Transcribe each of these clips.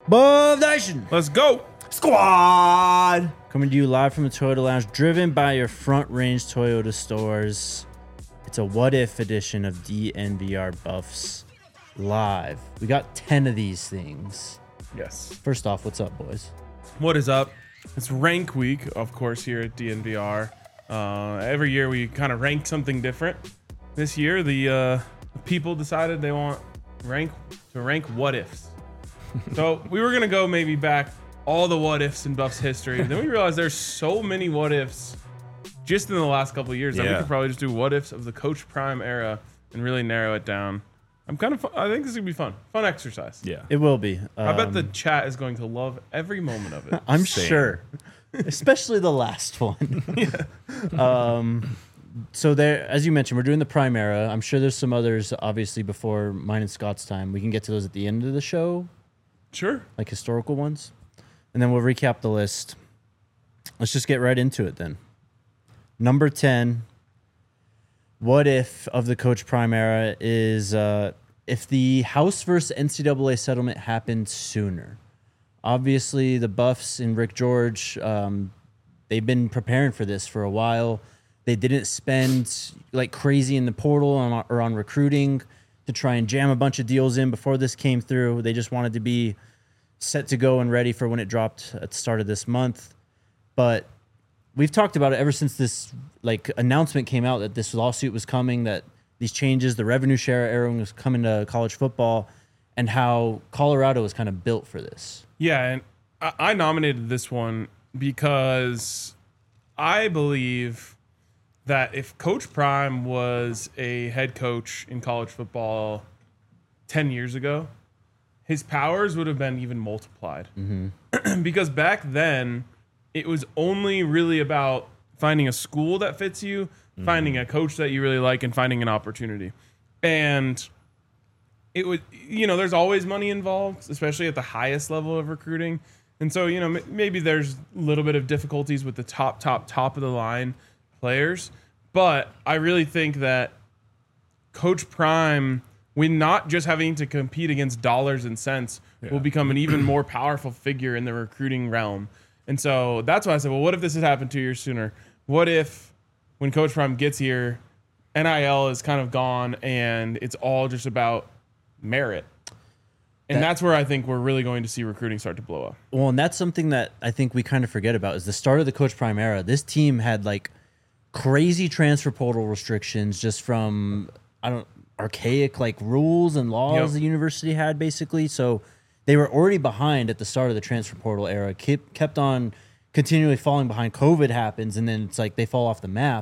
Buff Nation Let's go. Squad. coming to you live from the Toyota Lounge, driven by your Front Range Toyota stores. It's a what if edition of DNVR Buffs live. We got 10 of these things. Yes. First off, what's up, boys? What is up? It's rank week, of course, here at DNVR. Every year we kind of rank something different. This year, the people decided they want rank what ifs. So we were gonna go maybe back all the what ifs in Buffs history. Then we realized there's so many what ifs just in the last couple of years that we could probably just do what ifs of the Coach Prime era and really narrow it down. I think this is gonna be fun exercise. Yeah. It will be. I bet the chat is going to love every moment of it. I'm sure, especially the last one. So there, as you mentioned, we're doing the Prime era. I'm sure there's some others, obviously, before mine and Scott's time. We can get to those at the end of the show, Sure. like historical ones, and then we'll recap the list. Let's just get right into it then. Number 10, what if of the Coach Prime era is if the House versus NCAA settlement happened sooner. Obviously, the Buffs and Rick George, they've been preparing for this for a while. They didn't spend like crazy in the portal or on recruiting to try and jam a bunch of deals in before this came through. They just wanted to be set to go and ready for when it dropped at the start of this month. But we've talked about it ever since this like announcement came out that this lawsuit was coming, that these changes, the revenue share era was coming to college football, and how Colorado was kind of built for this. Yeah, and I nominated this one because I believe that if Coach Prime was a head coach in college football 10 years ago, his powers would have been even multiplied. Because back then, it was only really about finding a school that fits you, finding a coach that you really like, and finding an opportunity. And it would, there's always money involved, especially at the highest level of recruiting. And so, maybe there's a little bit of difficulties with the top of the line players. But I really think that Coach Prime, with not just having to compete against dollars and cents, will become an even more powerful figure in the recruiting realm. And so that's why I said, well, what if this had happened 2 years sooner? What if when Coach Prime gets here, NIL is kind of gone and it's all just about merit? And that's where I think we're really going to see recruiting start to blow up. Well, and that's something that I think we kind of forget about is the start of the Coach Prime era. This team had like crazy transfer portal restrictions just from archaic like rules and laws the university had basically. So they were already behind at the start of the transfer portal era. Kept on continually falling behind. COVID happens, and then it's like they fall off the map.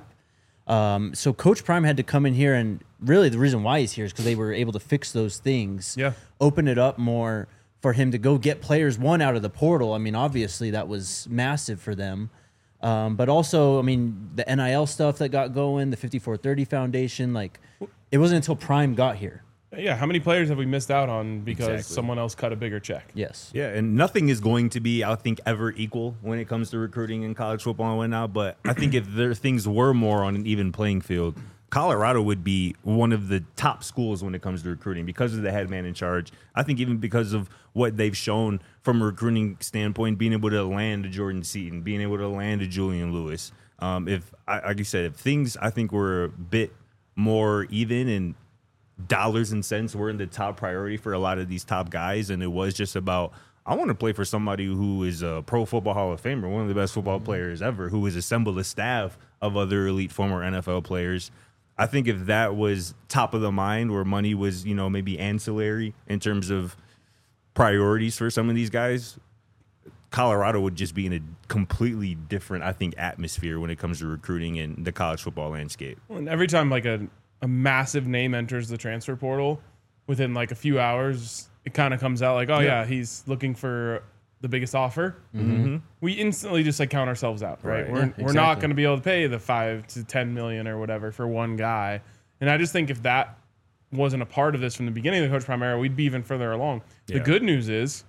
So Coach Prime had to come in here, and really the reason why he's here is because they were able to fix those things. Yeah. Open it up more for him to go get players out of the portal. I mean, obviously that was massive for them. But also, I mean, the NIL stuff that got going, the 5430 Foundation, like it wasn't until Prime got here. Yeah, how many players have we missed out on because someone else cut a bigger check? Yes. Yeah, and nothing is going to be, I think, ever equal when it comes to recruiting in college football and whatnot. But I think if things were more on an even playing field, Colorado would be one of the top schools when it comes to recruiting because of the head man in charge. I think even because of what they've shown from a recruiting standpoint, being able to land a Jordan Seaton, being able to land a Julian Lewis. Like you said, if things I think were a bit more even and dollars and cents were in the top priority for a lot of these top guys, and it was just about, I want to play for somebody who is a Pro Football Hall of Famer, one of the best football players ever, who has assembled a staff of other elite former NFL players. I think if that was top of the mind, where money was, maybe ancillary in terms of priorities for some of these guys, Colorado would just be in a completely different, I think, atmosphere when it comes to recruiting in the college football landscape. Well, and every time like a massive name enters the transfer portal, within like a few hours, it kind of comes out like, oh yeah, he's looking for the biggest offer. We instantly just like count ourselves out, right? We're not going to be able to pay the 5 to 10 million or whatever for one guy. And I just think if that wasn't a part of this from the beginning of the Coach Prime era, we'd be even further along. The good news is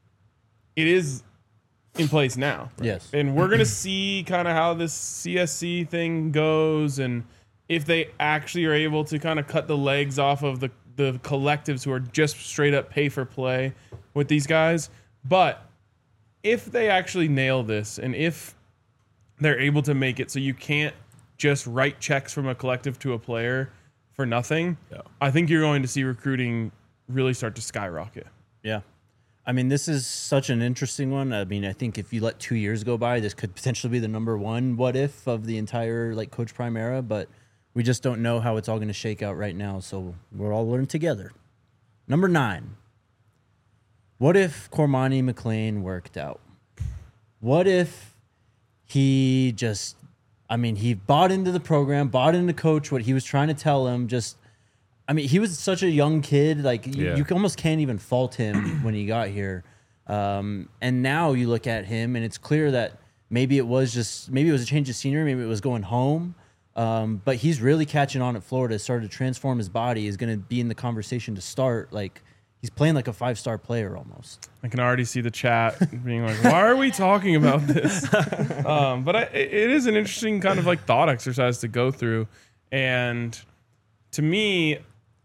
it is in place now. Yes. And we're going to see kind of how this CSC thing goes, and if they actually are able to kind of cut the legs off of the collectives who are just straight up pay for play with these guys, But if they actually nail this, and if they're able to make it so you can't just write checks from a collective to a player for nothing, I think you're going to see recruiting really start to skyrocket. Yeah. I mean, this is such an interesting one. I mean, I think if you let 2 years go by, this could potentially be the number one what if of the entire like Coach Prime era, but we just don't know how it's all going to shake out right now. So we're all learning together. Number 9. What if Cormani McClain worked out? What if he just, I mean, he bought into the program, bought into Coach, what he was trying to tell him, just, I mean, he was such a young kid. Like, you almost can't even fault him when he got here. And now you look at him, and it's clear that maybe it was a change of scenery, maybe it was going home. But he's really catching on at Florida, started to transform his body, is going to be in the conversation to start. Like, he's playing like a 5-star player almost. I can already see the chat being like, why are we talking about this? But it is an interesting kind of like thought exercise to go through. And to me,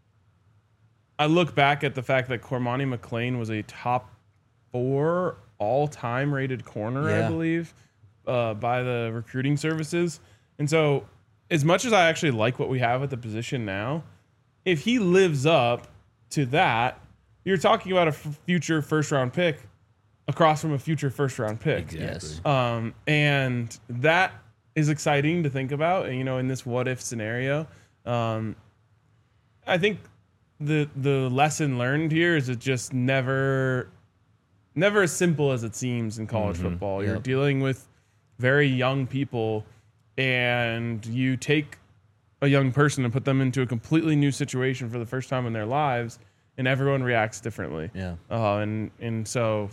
I look back at the fact that Cormani McClain was a top 4 all-time rated corner, I believe, by the recruiting services. And so as much as I actually like what we have at the position now, if he lives up to that, you're talking about a future first-round pick across from a future first-round pick. Exactly. Yes. And that is exciting to think about, you know, in this what-if scenario. I think the lesson learned here is it just never as simple as it seems in college football. You're dealing with very young people, and you take a young person and put them into a completely new situation for the first time in their lives, and everyone reacts differently. Yeah. And so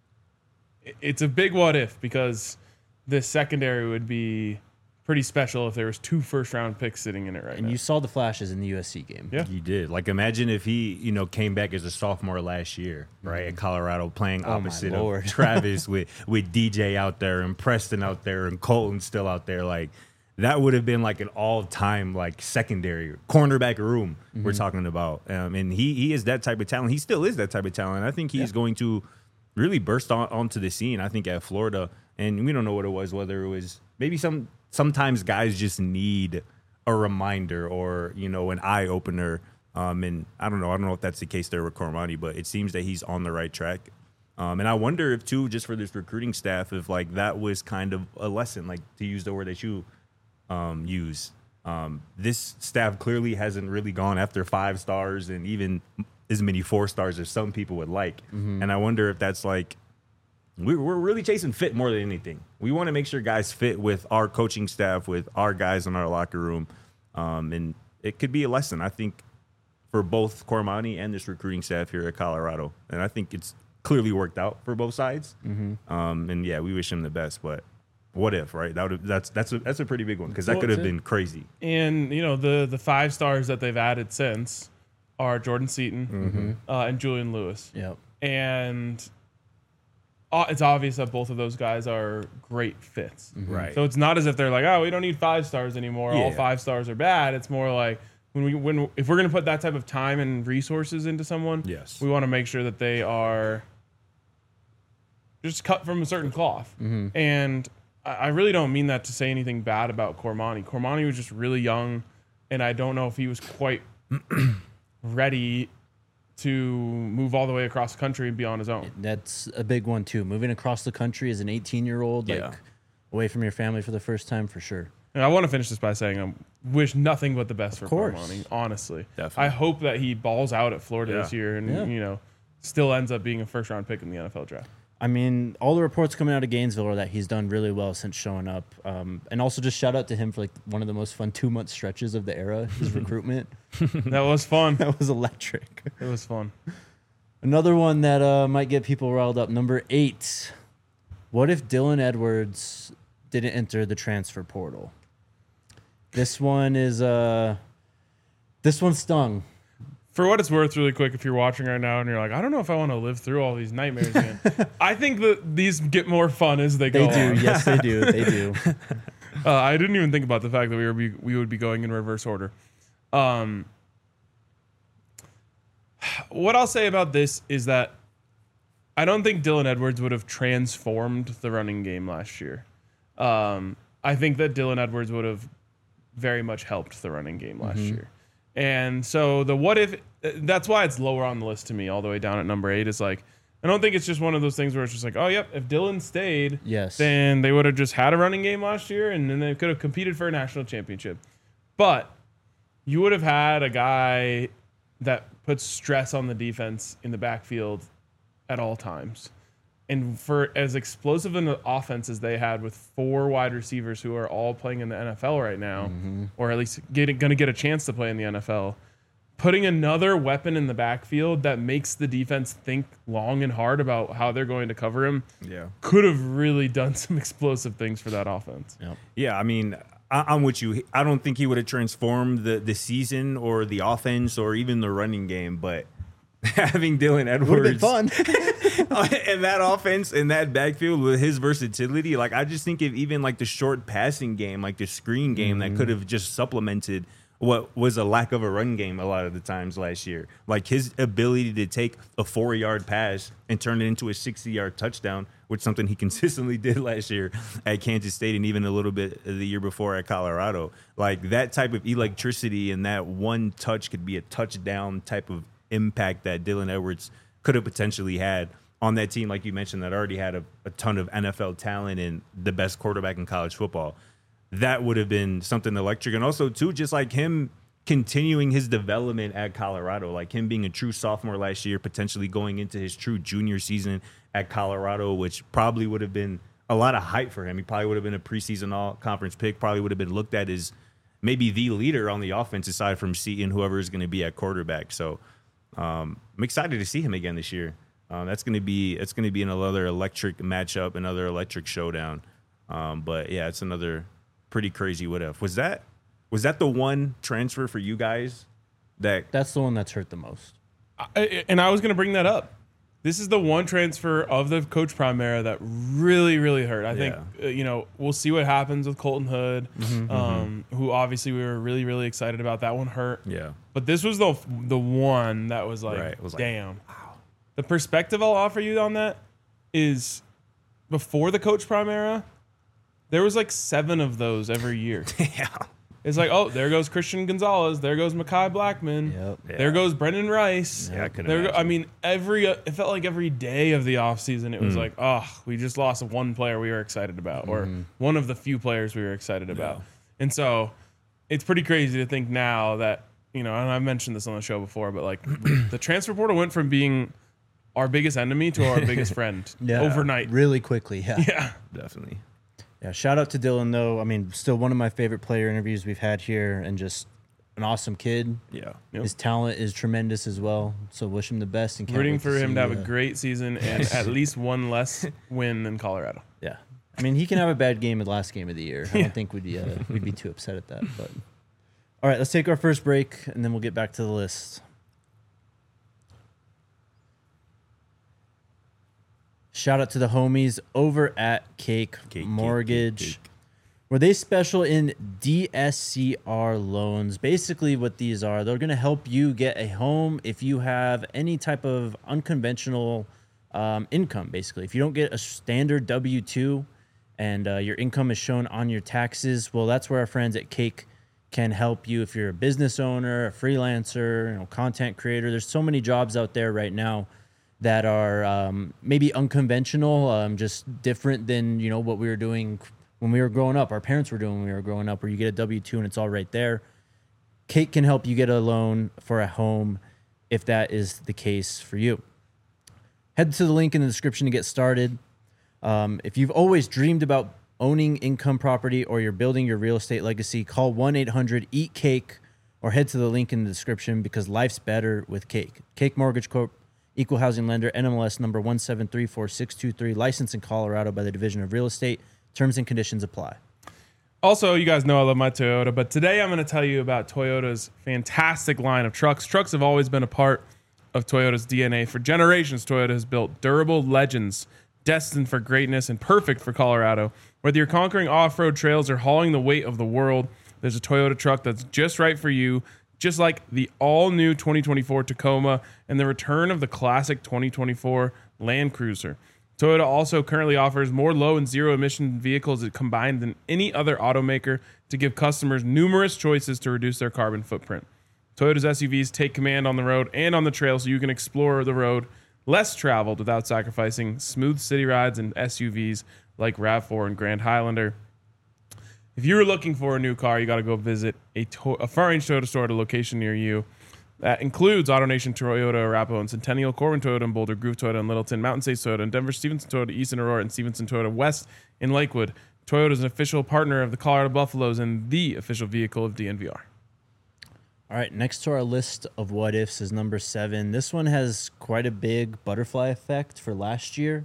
it's a big what if, because this secondary would be pretty special if there was 2 first-round picks sitting in it right now. And you saw the flashes in the USC game. Yeah. He did. Like, imagine if he, came back as a sophomore last year, right, at Colorado, playing opposite of Travis with DJ out there and Preston out there and Colton still out there. Like, that would have been like an all-time like secondary cornerback room we're talking about. And he is that type of talent. He still is that type of talent. I think he's going to really burst onto the scene, I think, at Florida. And we don't know what it was, whether it was maybe sometimes guys just need a reminder or, an eye-opener. And I don't know if that's the case there with Cormani, but it seems that he's on the right track. And I wonder if, too, just for this recruiting staff, if, like, that was kind of a lesson, like, to use the word that you use. This staff clearly hasn't really gone after 5 stars and even as many 4 stars as some people would like. And I wonder if that's like, we're really chasing fit more than anything. We want to make sure guys fit with our coaching staff, with our guys in our locker room. And it could be a lesson, I think, for both Cormani and this recruiting staff here at Colorado. And I think it's clearly worked out for both sides. And yeah, we wish him the best, but what if, right? That's a pretty big one, because that could have been crazy. And the 5 stars that they've added since are Jordan Seaton and Julian Lewis. Yep. And it's obvious that both of those guys are great fits. Right. So it's not as if they're like, oh, we don't need 5 stars anymore. Yeah. All 5 stars are bad. It's more like if we're going to put that type of time and resources into someone, Yes, we want to make sure that they are just cut from a certain cloth. And I really don't mean that to say anything bad about Cormani. Cormani was just really young, and I don't know if he was quite ready to move all the way across the country and be on his own. That's a big one, too. Moving across the country as an 18-year-old, like, away from your family for the first time, for sure. And I want to finish this by saying I wish nothing but the best for course. Cormani, honestly. Definitely. I hope that he balls out at Florida this year and, still ends up being a first-round pick in the NFL draft. I mean, all the reports coming out of Gainesville are that he's done really well since showing up. And also just shout out to him for like one of the most fun 2-month stretches of the era, his recruitment. That was fun. That was electric. It was fun. Another one that might get people riled up. Number 8. What if Dylan Edwards didn't enter the transfer portal? This one stung. For what it's worth, really quick, if you're watching right now and you're like, I don't know if I want to live through all these nightmares again. I think that these get more fun as they go They on. do. Yes, they do. They do. I didn't even think about the fact that we would be going in reverse order. What I'll say about this is that I don't think Dylan Edwards would have transformed the running game last year. I think that Dylan Edwards would have very much helped the running game last year. And so the what if, that's why it's lower on the list to me, all the way down at number 8, is like, I don't think it's just one of those things where it's just like, oh, yep, if Dylan stayed, then they would have just had a running game last year and then they could have competed for a national championship. But you would have had a guy that puts stress on the defense in the backfield at all times. And for as explosive an offense as they had with 4 wide receivers who are all playing in the NFL right now, or at least going to get a chance to play in the NFL, putting another weapon in the backfield that makes the defense think long and hard about how they're going to cover him could have really done some explosive things for that offense. Yeah, I mean, I'm with you. I don't think he would have transformed the season or the offense or even the running game, but having Dylan Edwards would have been fun. and that offense and that backfield with his versatility, like I just think if even like the short passing game, like the screen game that could have just supplemented what was a lack of a run game a lot of the times last year. Like his ability to take a 4-yard pass and turn it into a 60-yard touchdown, which is something he consistently did last year at Kansas State and even a little bit the year before at Colorado. Like that type of electricity and that one touch could be a touchdown type of impact that Dylan Edwards could have potentially had on that team, like you mentioned, that already had a ton of NFL talent and the best quarterback in college football. That would have been something electric. And also, too, just like him continuing his development at Colorado, like him being a true sophomore last year, potentially going into his true junior season at Colorado, which probably would have been a lot of hype for him. He probably would have been a preseason all-conference pick, probably would have been looked at as maybe the leader on the offense aside from Seton, whoever is going to be at quarterback. So I'm excited to see him again this year. It's going to be another electric matchup, another electric showdown. But yeah, it's another pretty crazy what if. Was that the one transfer for you guys that's the one that's hurt the most? And I was going to bring that up. This is the one transfer of the Coach Prime era that really, really hurt. I think we'll see what happens with Colton Hood, who obviously we were really, really excited about. That one hurt. Yeah. But this was the one that was like, damn. Wow. The perspective I'll offer you on that is before the Coach Prime era, there was like 7 of those every year. Yeah. It's like, oh, there goes Christian Gonzalez. There goes Mekhi Blackman. Yep. Yeah. There goes Brendan Rice. Yeah, I could I mean, it felt like every day of the offseason, it was like, oh, we just lost one player we were excited about, or one of the few players we were excited about. And so it's pretty crazy to think now that, and I've mentioned this on the show before, but like the transfer portal went from being our biggest enemy to our biggest friend overnight. Really quickly, yeah. Yeah. Definitely. Yeah, shout out to Dylan, though. I mean, still one of my favorite player interviews we've had here, and just an awesome kid. Yeah. Yep. His talent is tremendous as well, so wish him the best. And rooting for him to have a great season and at least one less win than Colorado. Yeah. I mean, he can have a bad game at the last game of the year. I don't think we'd be too upset at that. But all right, let's take our first break, and then we'll get back to the list. Shout out to the homies over at Cake Mortgage. Were they special in DSCR loans? Basically what these are, they're going to help you get a home if you have any type of unconventional income, basically. If you don't get a standard W-2 and your income is shown on your taxes, well, that's where our friends at Cake can help you. If you're a business owner, a freelancer, content creator, there's so many jobs out there right now that are maybe unconventional, just different than, what we were doing when we were growing up. Our parents were doing when we were growing up, where you get a W-2 and it's all right there. Cake can help you get a loan for a home if that is the case for you. Head to the link in the description to get started. If you've always dreamed about owning income property or you're building your real estate legacy, call 1-800-EAT-CAKE or head to the link in the description, because life's better with Cake. Cake Mortgage Corp., Equal Housing Lender, NMLS number 1734623, licensed in Colorado by the Division of Real Estate. Terms and conditions apply. Also, you guys know I love my Toyota, but today I'm going to tell you about Toyota's fantastic line of trucks. Trucks have always been a part of Toyota's DNA. For generations, Toyota has built durable legends destined for greatness and perfect for Colorado. Whether you're conquering off-road trails or hauling the weight of the world, there's a Toyota truck that's just right for you. Just like the all-new 2024 Tacoma and the return of the classic 2024 Land Cruiser. Toyota also currently offers more low and zero emission vehicles combined than any other automaker to give customers numerous choices to reduce their carbon footprint. Toyota's SUVs take command on the road and on the trail so you can explore the road less traveled without sacrificing smooth city rides and SUVs like RAV4 and Grand Highlander. If you're looking for a new car, you got to go visit a Front Range Toyota store at a location near you. That includes AutoNation Toyota, Arapahoe and Centennial, Corbin Toyota and Boulder, Groove Toyota and Littleton, Mountain States Toyota and Denver, Stevenson Toyota, East and Aurora, and Stevenson Toyota West in Lakewood. Toyota is an official partner of the Colorado Buffaloes and the official vehicle of DNVR. All right, next to our list of what ifs is number 7. This one has quite a big butterfly effect for last year.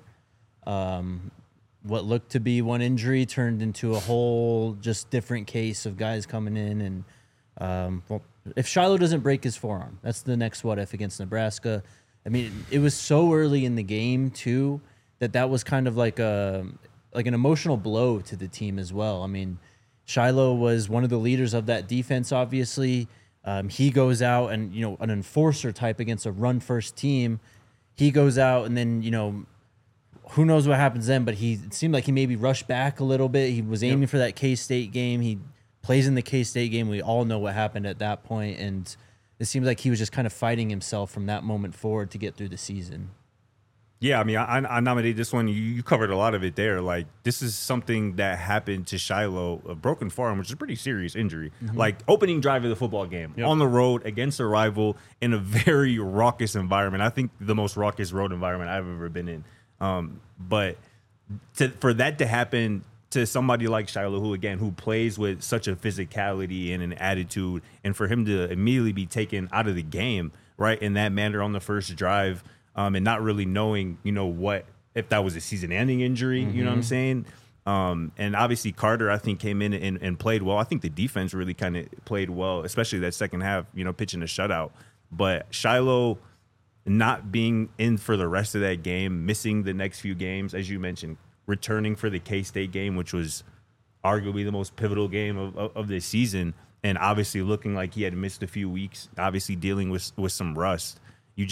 What looked to be one injury turned into a whole just different case of guys coming in. And well, if Shiloh doesn't break his forearm, that's the next what if against Nebraska. I mean, it was so early in the game too that was kind of like an emotional blow to the team as well. I mean, Shiloh was one of the leaders of that defense, obviously. He goes out and, an enforcer type against a run-first team. He goes out and then, who knows what happens then, but it seemed like he maybe rushed back a little bit. He was aiming for that K-State game. He plays in the K-State game. We all know what happened at that point, and it seems like he was just kind of fighting himself from that moment forward to get through the season. Yeah, I mean, I nominated this one. You covered a lot of it there. Like, this is something that happened to Shiloh, a broken forearm, which is a pretty serious injury. Mm-hmm. Like, opening drive of the football game, on the road against a rival in a very raucous environment. I think the most raucous road environment I've ever been in. But for that to happen to somebody like Shiloh, who plays with such a physicality and an attitude, and for him to immediately be taken out of the game, right, in that manner on the first drive, and not really knowing, what if that was a season-ending injury, you know what I'm saying? And obviously Carter, I think, came in and played well. I think the defense really kind of played well, especially that second half, pitching a shutout. But Shiloh not being in for the rest of that game, missing the next few games, as you mentioned, returning for the K-State game, which was arguably the most pivotal game of this season, and obviously looking like he had missed a few weeks, obviously dealing with some rust.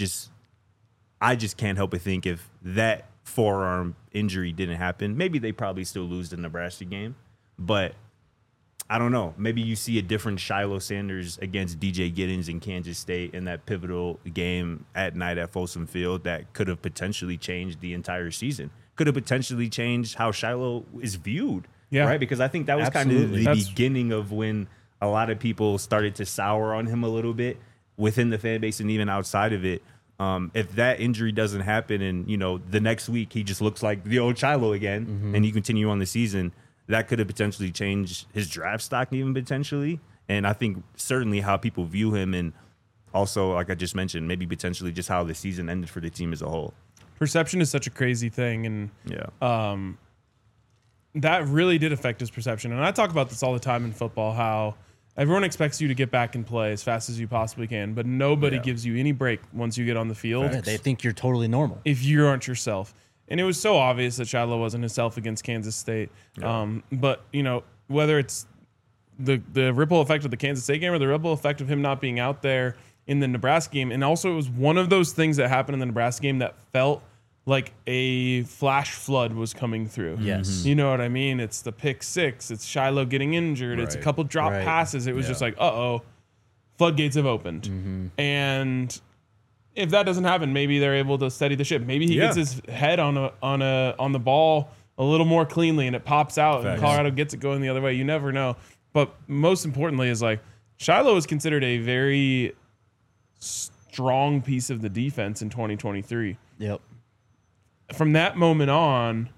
I just can't help but think if that forearm injury didn't happen, maybe they probably still lose the Nebraska game. But I don't know. Maybe you see a different Shiloh Sanders against DJ Giddens in Kansas State in that pivotal game at night at Folsom Field that could have potentially changed the entire season. Could have potentially changed how Shiloh is viewed, right? Because I think that was kind of the beginning of when a lot of people started to sour on him a little bit within the fan base and even outside of it. If that injury doesn't happen and, the next week he just looks like the old Shiloh again and you continue on the season, that could have potentially changed his draft stock even potentially. And I think certainly how people view him, and also, like I just mentioned, maybe potentially just how the season ended for the team as a whole. Perception is such a crazy thing. And that really did affect his perception. And I talk about this all the time in football, how everyone expects you to get back and play as fast as you possibly can, but nobody gives you any break once you get on the field. Right. They think you're totally normal if you aren't yourself. And it was so obvious that Shiloh wasn't himself against Kansas State. Yeah. But, whether it's the ripple effect of the Kansas State game or the ripple effect of him not being out there in the Nebraska game, and also it was one of those things that happened in the Nebraska game that felt like a flash flood was coming through. Yes. You know what I mean? It's the pick six. It's Shiloh getting injured. Right. It's a couple drop passes. It was just like, floodgates have opened. Mm-hmm. And if that doesn't happen, maybe they're able to steady the ship. Maybe he gets his head on the ball a little more cleanly and it pops out and Colorado gets it going the other way. You never know. But most importantly is like Shiloh is considered a very strong piece of the defense in 2023. Yep. From that moment on,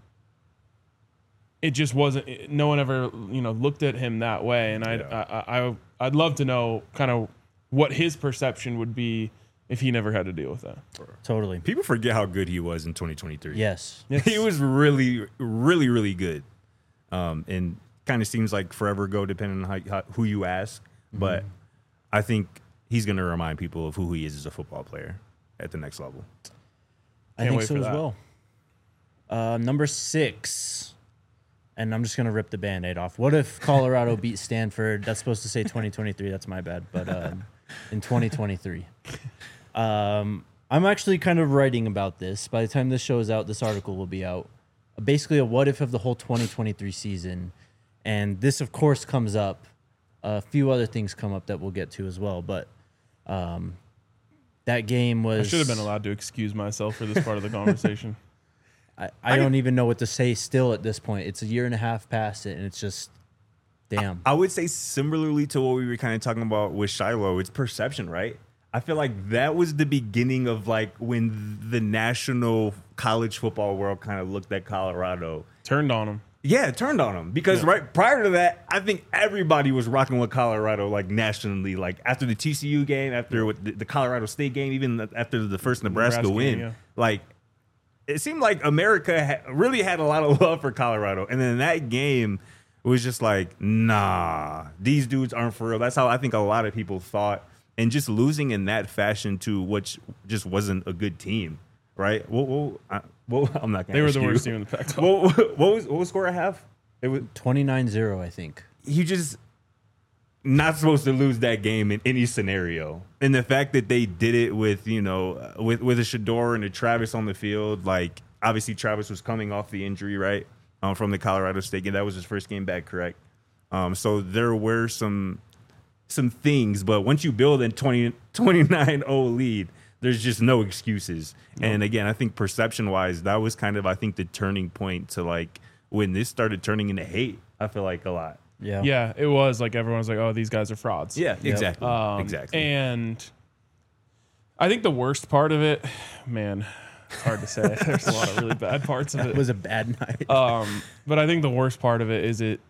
it just wasn't. No one ever, looked at him that way. And I'd love to know kind of what his perception would be if he never had to deal with that. Totally. People forget how good he was in 2023. Yes. He was really, really, really good. And kind of seems like forever ago, depending on who you ask. Mm-hmm. But I think he's going to remind people of who he is as a football player at the next level. I think so as well. Number 6, and I'm just going to rip the Band-Aid off. What if Colorado beat Stanford? That's supposed to say 2023. That's my bad. But in 2023. I'm actually kind of writing about this. By the time this show is out, this article will be out. Basically, a what if of the whole 2023 season. And this, of course, comes up. A few other things come up that we'll get to as well. But that game was... I should have been allowed to excuse myself for this part of the conversation. I don't even know what to say still at this point. It's a year and a half past it, and it's just... Damn. I would say similarly to what we were kind of talking about with Shiloh, it's perception, right? I feel like that was the beginning of like when the national college football world kind of looked at Colorado. Turned on him. Yeah, it turned on them because right prior to that, I think everybody was rocking with Colorado like nationally. Like after the TCU game, after with the Colorado State game, even after the first Nebraska win, yeah. like it seemed like America really had a lot of love for Colorado. And then that game was just like, nah, these dudes aren't for real. That's how I think a lot of people thought. And just losing in that fashion to what just wasn't a good team, right? Well, I'm not going to They were the worst team in the Pac-12. What was score I have? It was 29-0, I think. You just not supposed to lose that game in any scenario. And the fact that they did it with, with a Shedeur and a Travis on the field, like obviously Travis was coming off the injury, right? From the Colorado State game. That was his first game back, correct? So there were some things, but once you build a 29-0 lead, there's just no excuses. No. And again, I think perception-wise, that was kind of, I think, the turning point to like when this started turning into hate, I feel like a lot. Yeah. Yeah, it was like everyone was like, oh, these guys are frauds. Yeah, exactly. Exactly. And I think the worst part of it, man, it's hard to say. There's a lot of really bad parts of it. It was a bad night. But I think the worst part of it is it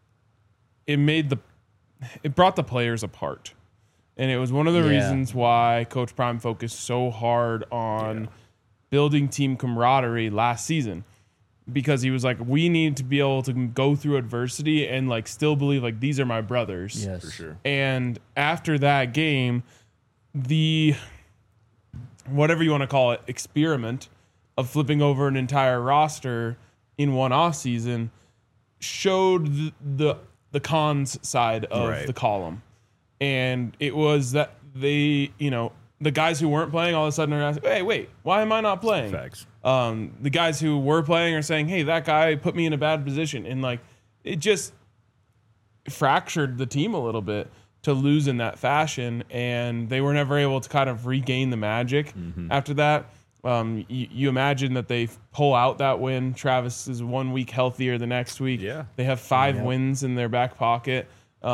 brought the players apart. And it was one of the reasons why Coach Prime focused so hard on building team camaraderie last season. Because he was like, we need to be able to go through adversity and like still believe like these are my brothers. Yes, for sure. And after that game, the whatever you want to call it, experiment of flipping over an entire roster in one off season showed the cons side of the column. And it was that they, the guys who weren't playing all of a sudden are asking, hey, wait, why am I not playing? Facts. The guys who were playing are saying, hey, that guy put me in a bad position. And like, it just fractured the team a little bit to lose in that fashion. And they were never able to kind of regain the magic after that. You imagine that they pull out that win. Travis is 1 week healthier the next week. Yeah. They have 5 wins in their back pocket.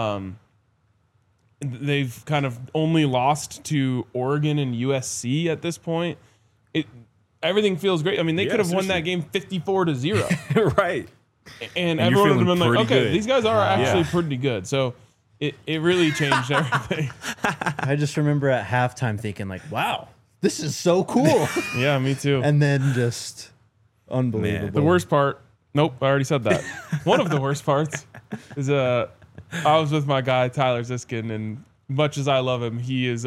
They've kind of only lost to Oregon and USC at this point. Everything feels great. I mean, they could have won that game 54-0. Right. And everyone would have been like, okay, good. These guys are actually pretty good. So it really changed everything. I just remember at halftime thinking like, wow, this is so cool. Yeah, me too. And then just unbelievable. Man. The worst part, nope, I already said that. One of the worst parts is I was with my guy, Tyler Ziskin, and much as I love him, he is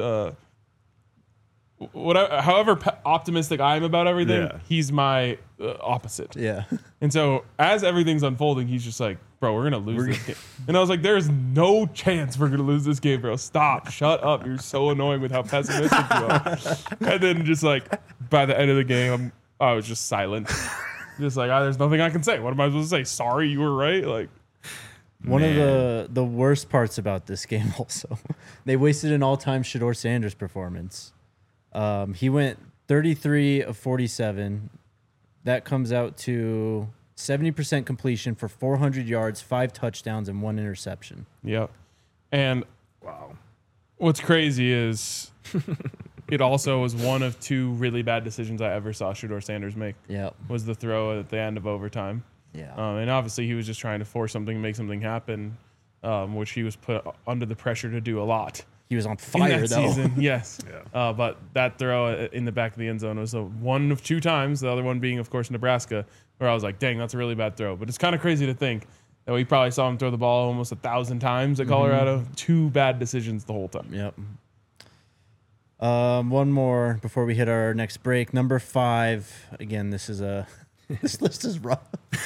however optimistic I am about everything, he's my opposite. Yeah. And so as everything's unfolding, he's just like, bro, we're going to lose this game. And I was like, there's no chance we're going to lose this game, bro. Stop. Shut up. You're so annoying with how pessimistic you are. And then just like by the end of the game, I was just silent. Just like, there's nothing I can say. What am I supposed to say? Sorry, you were right. Like, one of the worst parts about this game also, they wasted an all-time Shedeur Sanders performance. He went 33 of 47. That comes out to 70% completion for 400 yards, 5 touchdowns, and 1 interception. Yep. And wow, what's crazy is it also was one of 2 really bad decisions I ever saw Shedeur Sanders make. Yep. Was the throw at the end of overtime. Yeah. And obviously he was just trying to force something, make something happen, which he was put under the pressure to do a lot. He was on fire, in that though. season, yes. Yeah. But that throw in the back of the end zone was one of 2 times, the other one being, of course, Nebraska, where I was like, dang, that's a really bad throw. But it's kind of crazy to think that we probably saw him throw the ball almost 1,000 times at Colorado. 2 bad decisions the whole time. Yep. One more before we hit our next break. Number 5. Again, this list is rough.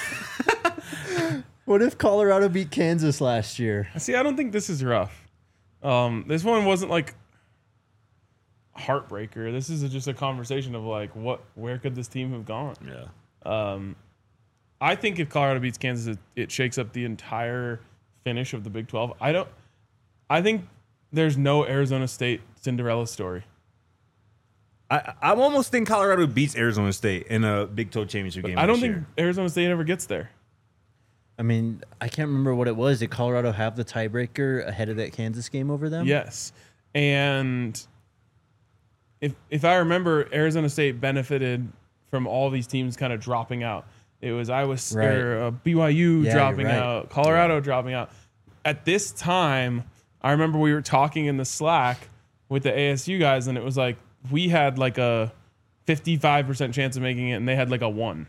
What if Colorado beat Kansas last year? See, I don't think this is rough. This one wasn't like heartbreaker. This is just a conversation of like, where could this team have gone? Yeah. I think if Colorado beats Kansas, it shakes up the entire finish of the Big 12. I think there's no Arizona State Cinderella story. I almost think Colorado beats Arizona State in a Big 12 championship game. I don't this think year. Arizona State ever gets there. I mean, I can't remember what it was. Did Colorado have the tiebreaker ahead of that Kansas game over them? Yes. And if I remember, Arizona State benefited from all these teams kind of dropping out. It was BYU Yeah, dropping you're right. out, Colorado dropping out. At this time, I remember we were talking in the Slack with the ASU guys, and it was like we had like a 55% chance of making it, and they had like a 1.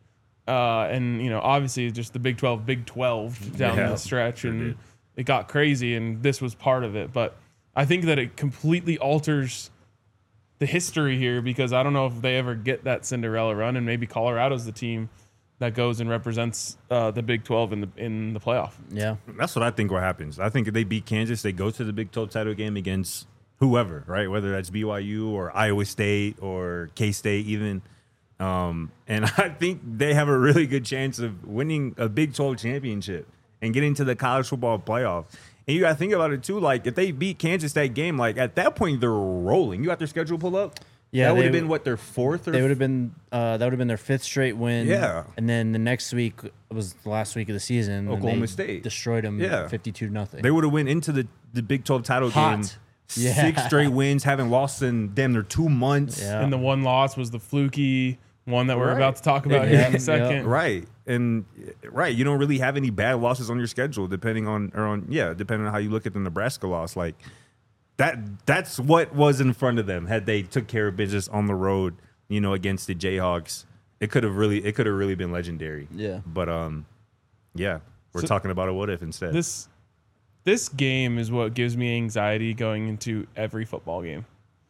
And obviously just the Big 12 down the stretch, and did. it got crazy, and this was part of it. But I think that it completely alters the history here, because I don't know if they ever get that Cinderella run, and maybe Colorado's the team that goes and represents the Big 12 in the playoff. Yeah. That's what I think what happens. I think if they beat Kansas, they go to the Big 12 title game against whoever, right? Whether that's BYU or Iowa State or K-State even. And I think they have a really good chance of winning a Big 12 championship and getting to the college football playoff. And you got to think about it, too. Like, if they beat Kansas that game, like, at that point, they're rolling. You got their schedule pulled up? Yeah, that would they have been, w- what, their fourth? Or They would have been that would have been their 5th straight win. Yeah. And then the next week was the last week of the season. and Oklahoma they State. destroyed them Yeah. 52-0. They would have went into the Big 12 title Hot. game. Yeah. 6 straight wins, haven't lost in damn near 2 months. Yeah. And the one loss was the fluky one that we're Right. about to talk about Yeah, here in yeah. a second. Right. And you don't really have any bad losses on your schedule, depending on how you look at the Nebraska loss. Like that's what was in front of them. Had they took care of business on the road, against the Jayhawks, it could have really been legendary. Yeah. But we're So- talking about a what if instead. This game is what gives me anxiety going into every football game,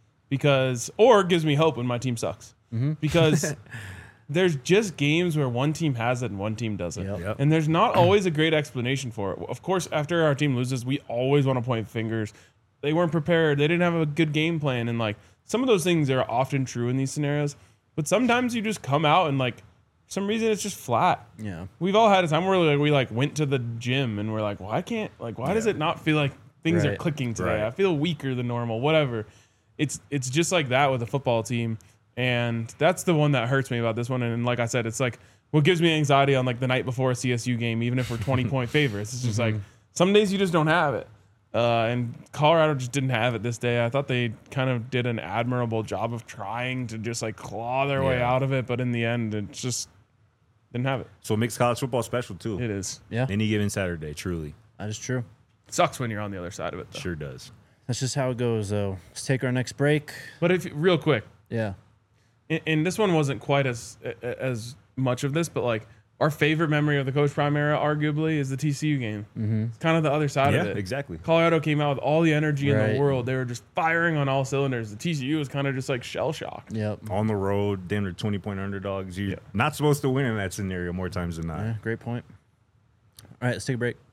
or gives me hope when my team sucks. Because there's just games where one team has it and one team doesn't. Yep. And there's not always a great explanation for it. Of course, after our team loses, we always want to point fingers. They weren't prepared. They didn't have a good game plan. And like some of those things are often true in these scenarios. But sometimes you just come out and like for some reason it's just flat. Yeah. We've all had a time where we went to the gym and we're like, why does it not feel like things are Right. clicking today? Right. I feel weaker than normal, whatever. It's just like that with a football team. And that's the one that hurts me about this one. And like I said, it's like what gives me anxiety on like the night before a CSU game, even if we're 20-point favorites. It's just like some days you just don't have it. And Colorado just didn't have it this day. I thought they kind of did an admirable job of trying to just like claw their way Yeah. out of it. But in the end, it just didn't have it. So it makes college football special too. It is. Yeah. Any given Saturday, truly. That is true. Sucks when you're on the other side of it, though. Sure does. That's just how it goes, though. Let's take our next break. But real quick, Yeah. and this one wasn't quite as much of this, but like our favorite memory of the Coach Prime era, arguably, is the TCU game. Mm-hmm. It's kind of the other side of Yeah, it. exactly. Colorado came out with all the energy in Right. the world. They were just firing on all cylinders. The TCU was kind of just like shell shocked. Yep. On the road, damn near 20-point underdogs. You're not supposed to win in that scenario more times than not. Yeah, great point. All right, let's take a break.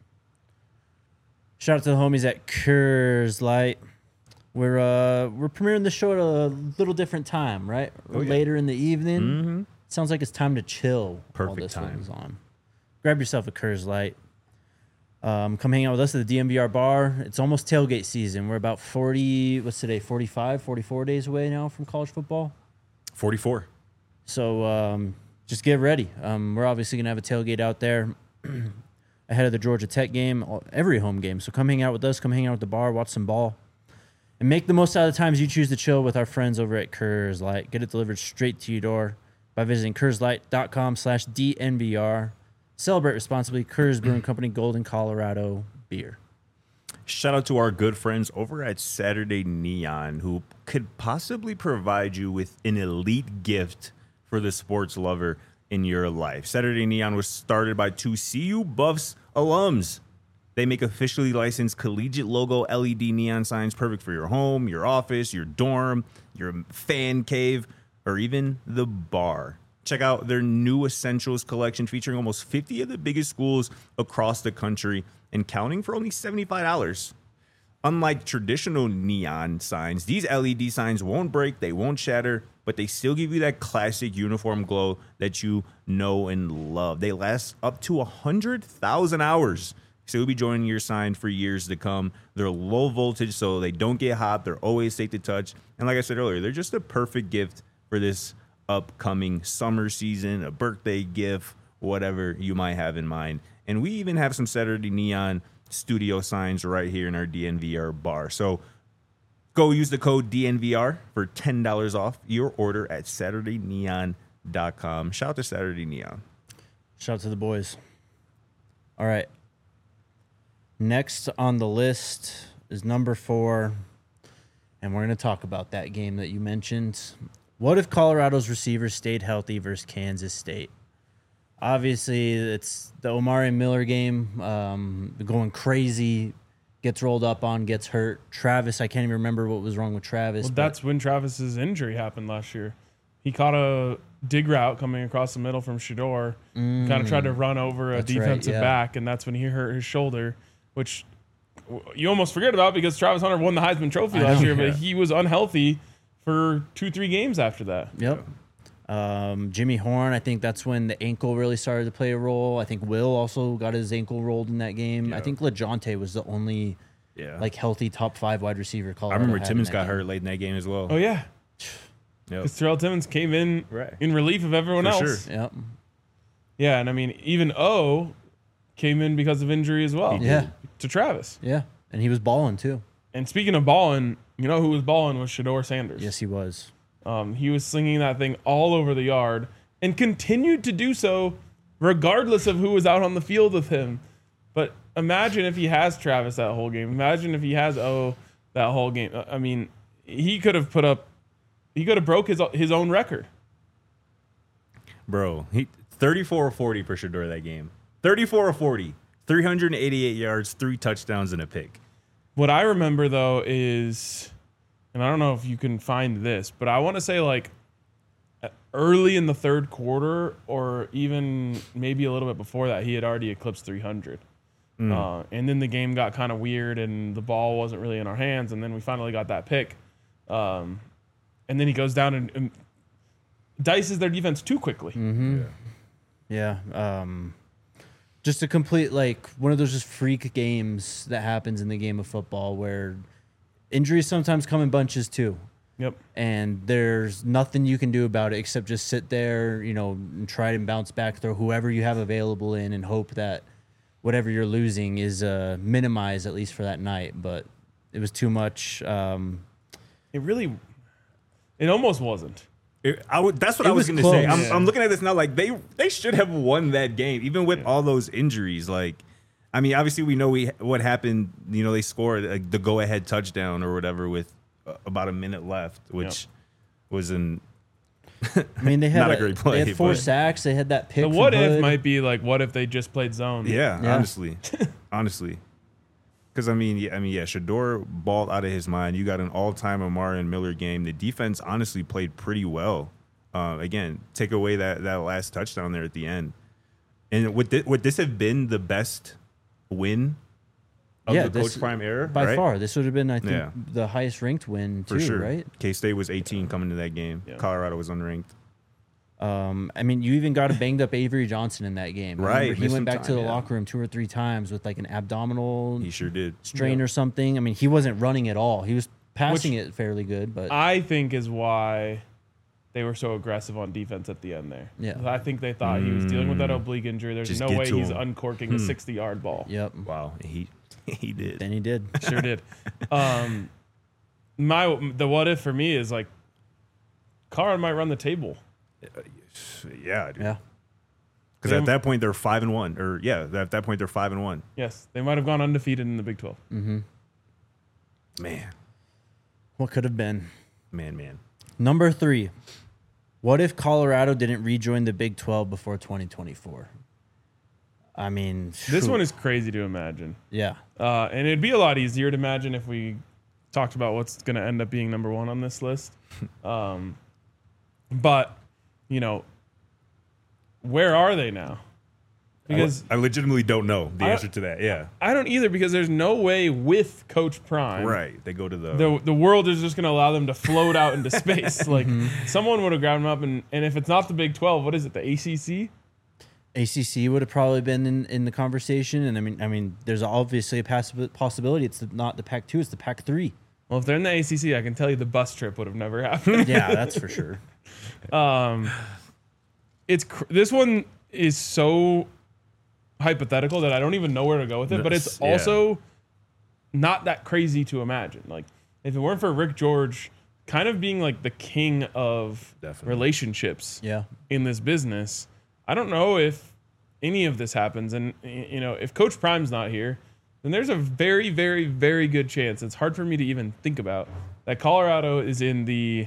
Shout out to the homies at Coors Light. We're premiering the show at a little different time, right? Oh, yeah. Later in the evening. Mm-hmm. Sounds like it's time to chill while Perfect this time. one's on. Grab yourself a Coors Light. Come hang out with us at the DMVR bar. It's almost tailgate season. We're about 44 days away now from college football. 44. So just get ready. We're obviously going to have a tailgate out there ahead of the Georgia Tech game, every home game. So come hang out with us. Come hang out at the bar, watch some ball. And make the most out of the times you choose to chill with our friends over at Coors Light. Get it delivered straight to your door by visiting CoorsLight.com/DNVR. Celebrate responsibly. Coors Brewing Company, Golden, Colorado beer. Shout out to our good friends over at Saturday Neon who could possibly provide you with an elite gift for the sports lover in your life. Saturday Neon was started by 2 CU Buffs alums. They make officially licensed collegiate logo LED neon signs perfect for your home, your office, your dorm, your fan cave, or even the bar. Check out their new Essentials collection featuring almost 50 of the biggest schools across the country and counting for only $75. unlike traditional neon signs, these LED signs won't break, they won't shatter, but they still give you that classic uniform glow that you know and love. They last up to 100,000 hours. So you'll be joining your sign for years to come. They're low voltage, so they don't get hot. They're always safe to touch. And like I said earlier, they're just a perfect gift for this upcoming summer season, a birthday gift, whatever you might have in mind. And we even have some Saturday Neon studio signs right here in our DNVR bar. So go use the code DNVR for $10 off your order at SaturdayNeon.com. Shout out to Saturday Neon. Shout out to the boys. All right. Next on the list is number 4, and we're going to talk about that game that you mentioned. What if Colorado's receivers stayed healthy versus Kansas State? Obviously, it's the Omari Miller game, going crazy, gets rolled up on, gets hurt. Travis, I can't even remember what was wrong with Travis. Well, that's when Travis's injury happened last year. He caught a dig route coming across the middle from Shador, kind of tried to run over a defensive back, and that's when he hurt his shoulder, which you almost forget about because Travis Hunter won the Heisman Trophy last year, but he was unhealthy for 2-3 games after that. Yep. Jimmy Horn, I think that's when the ankle really started to play a role. I think Will also got his ankle rolled in that game. I think LeJounte was the only like healthy top 5 wide receiver. Colorado I remember Timmons got game. hurt late in that game as well. Oh, yeah. Yep. Because Terrell Timmons came in in relief of everyone For else. sure. Yep. Yeah, and I mean, even O came in because of injury as well. Yeah. To Travis. Yeah. And he was balling too. And speaking of balling, you know who was balling was Shador Sanders. Yes, he was. He was slinging that thing all over the yard and continued to do so regardless of who was out on the field with him. But imagine if he has Travis that whole game. Imagine if he has O that whole game. I mean, he could have broke his own record. Bro, he 34 or 40 for Shador that game. 34 or 40. 388 yards, 3 touchdowns, and a pick. What I remember, though, is, and I don't know if you can find this, but I want to say like early in the third quarter or even maybe a little bit before that, he had already eclipsed 300. And then the game got kind of weird and the ball wasn't really in our hands. And then we finally got that pick. And then he goes down and dices their defense too quickly. Mm-hmm. Yeah. Just a complete, like, one of those just freak games that happens in the game of football where injuries sometimes come in bunches too. Yep. And there's nothing you can do about it except just sit there, and try and bounce back, throw whoever you have available in, and hope that whatever you're losing is minimized at least for that night. But it was too much. It almost wasn't. That's what I was going to say. I'm looking at this now. Like they should have won that game, even with all those injuries. Like, I mean, obviously we know what happened. They scored the go-ahead touchdown or whatever with about a minute left, which was an. I mean, they had not a great play. They had 4 sacks. They had that pick. The what if might be like, what if they just played zone? Yeah. honestly. Because, I mean, Shador balled out of his mind. You got an all-time Omari and Miller game. The defense honestly played pretty well. Again, take away that last touchdown there at the end. And would this have been the best win of the Coach Prime era? By far. This would have been, I think, the highest-ranked win, too, for sure. right? K-State was 18 coming to that game. Yeah. Colorado was unranked. I mean, you even got a banged-up Avery Johnson in that game. Right. He went back to the locker room 2 or 3 times with, like, an abdominal he sure did. strain or something. I mean, he wasn't running at all. He was passing it fairly good. But I think is why they were so aggressive on defense at the end there. Yeah. I think they thought he was dealing with that oblique injury. There's Just no get way to he's him. uncorking a 60-yard ball. Yep. Wow. He did. Then he did. Sure did. The what if for me is like Colorado might run the table. Yeah, dude. Yeah. Because at that point they're 5-1, or at that point they're 5-1. Yes, they might have gone undefeated in the Big 12. Mm-hmm. Man. What could have been? Man. Number 3. What if Colorado didn't rejoin the Big 12 before 2024? I mean, this one is crazy to imagine. Yeah. And it'd be a lot easier to imagine if we talked about what's going to end up being number 1 on this list. But, where are they now? Because I legitimately don't know the I- answer to that. Yeah. I don't either, because there's no way with Coach Prime. Right. They go to the The world is just going to allow them to float out into space. Like, someone would have grabbed them up, and if it's not the Big 12, what is it, the ACC? ACC would have probably been in the conversation, and I mean, there's obviously a possibility it's not the Pac-2, it's the Pac-3. Well, if they're in the ACC, I can tell you the bus trip would have never happened. Yeah, that's for sure. This one is so hypothetical that I don't even know where to go with it, but it's Yeah. also not that crazy to imagine. Like, if it weren't for Rick George kind of being like the king of Definitely. relationships Yeah. in this business, I don't know if any of this happens. And, you know, if Coach Prime's not here, then there's a very, very, very good chance, it's hard for me to even think about, that Colorado is in the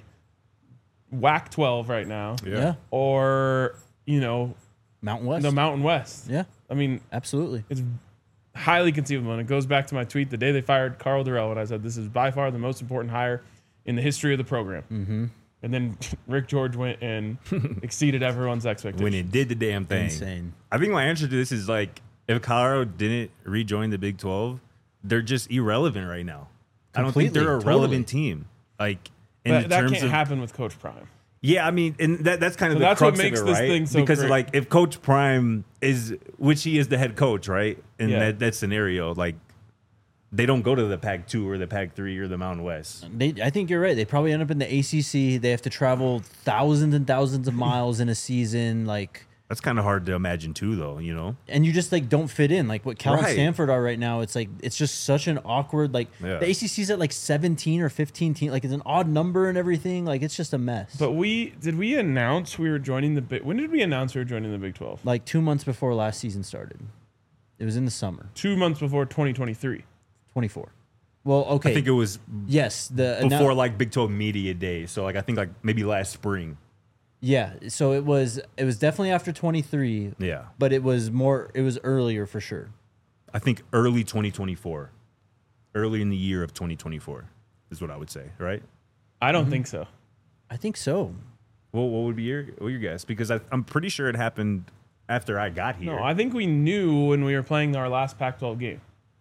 WAC 12 right now, Yeah. or, you know, Mountain West. the Mountain West. Yeah, I mean, absolutely. it's highly conceivable. And it goes back to my tweet the day they fired Carl Durrell, when I said this is by far the most important hire in the history of the program. Mm-hmm. And then Rick George went and exceeded everyone's expectations. when it did the damn thing. Insane. I think my answer to this is like, if Colorado didn't rejoin the Big 12, they're just irrelevant right now. I don't think Completely, they're a totally. relevant team. Like, in But that terms can't of happen with Coach Prime. Yeah, I mean, and that's kind of So the that's what crux makes of it, this right? thing so because great. like if Coach Prime is, which he is the head coach, right? In Yeah. that scenario, like they don't go to the Pac-2 or the Pac-3 or the Mountain West. I think you're right. They probably end up in the ACC. They have to travel thousands and thousands of miles in a season, like, That's kind of hard to imagine too, though. You know, and you just like don't fit in. Like what Cal and Right. Stanford are right now. It's like it's just such an awkward. Like Yeah. the ACC's at like 17 or 15 teams. Like it's an odd number and everything. Like it's just a mess. But did we announce we were joining the Big? When did we announce we were joining the Big 12? like 2 months before last season started. It was in the summer, 2 months before 2023. 24. Well, okay. I think it was yes, before like Big 12 Media Day. So like I think like maybe last spring. Yeah, so it was definitely after 23. Yeah, But it was earlier for sure. I think early 2024, early in the year of 2024 is what I would say, right? I don't think so. I think so. Well, what would be your guess? Because I'm pretty sure it happened after I got here. No, I think we knew when we were playing our last Pac-12 game.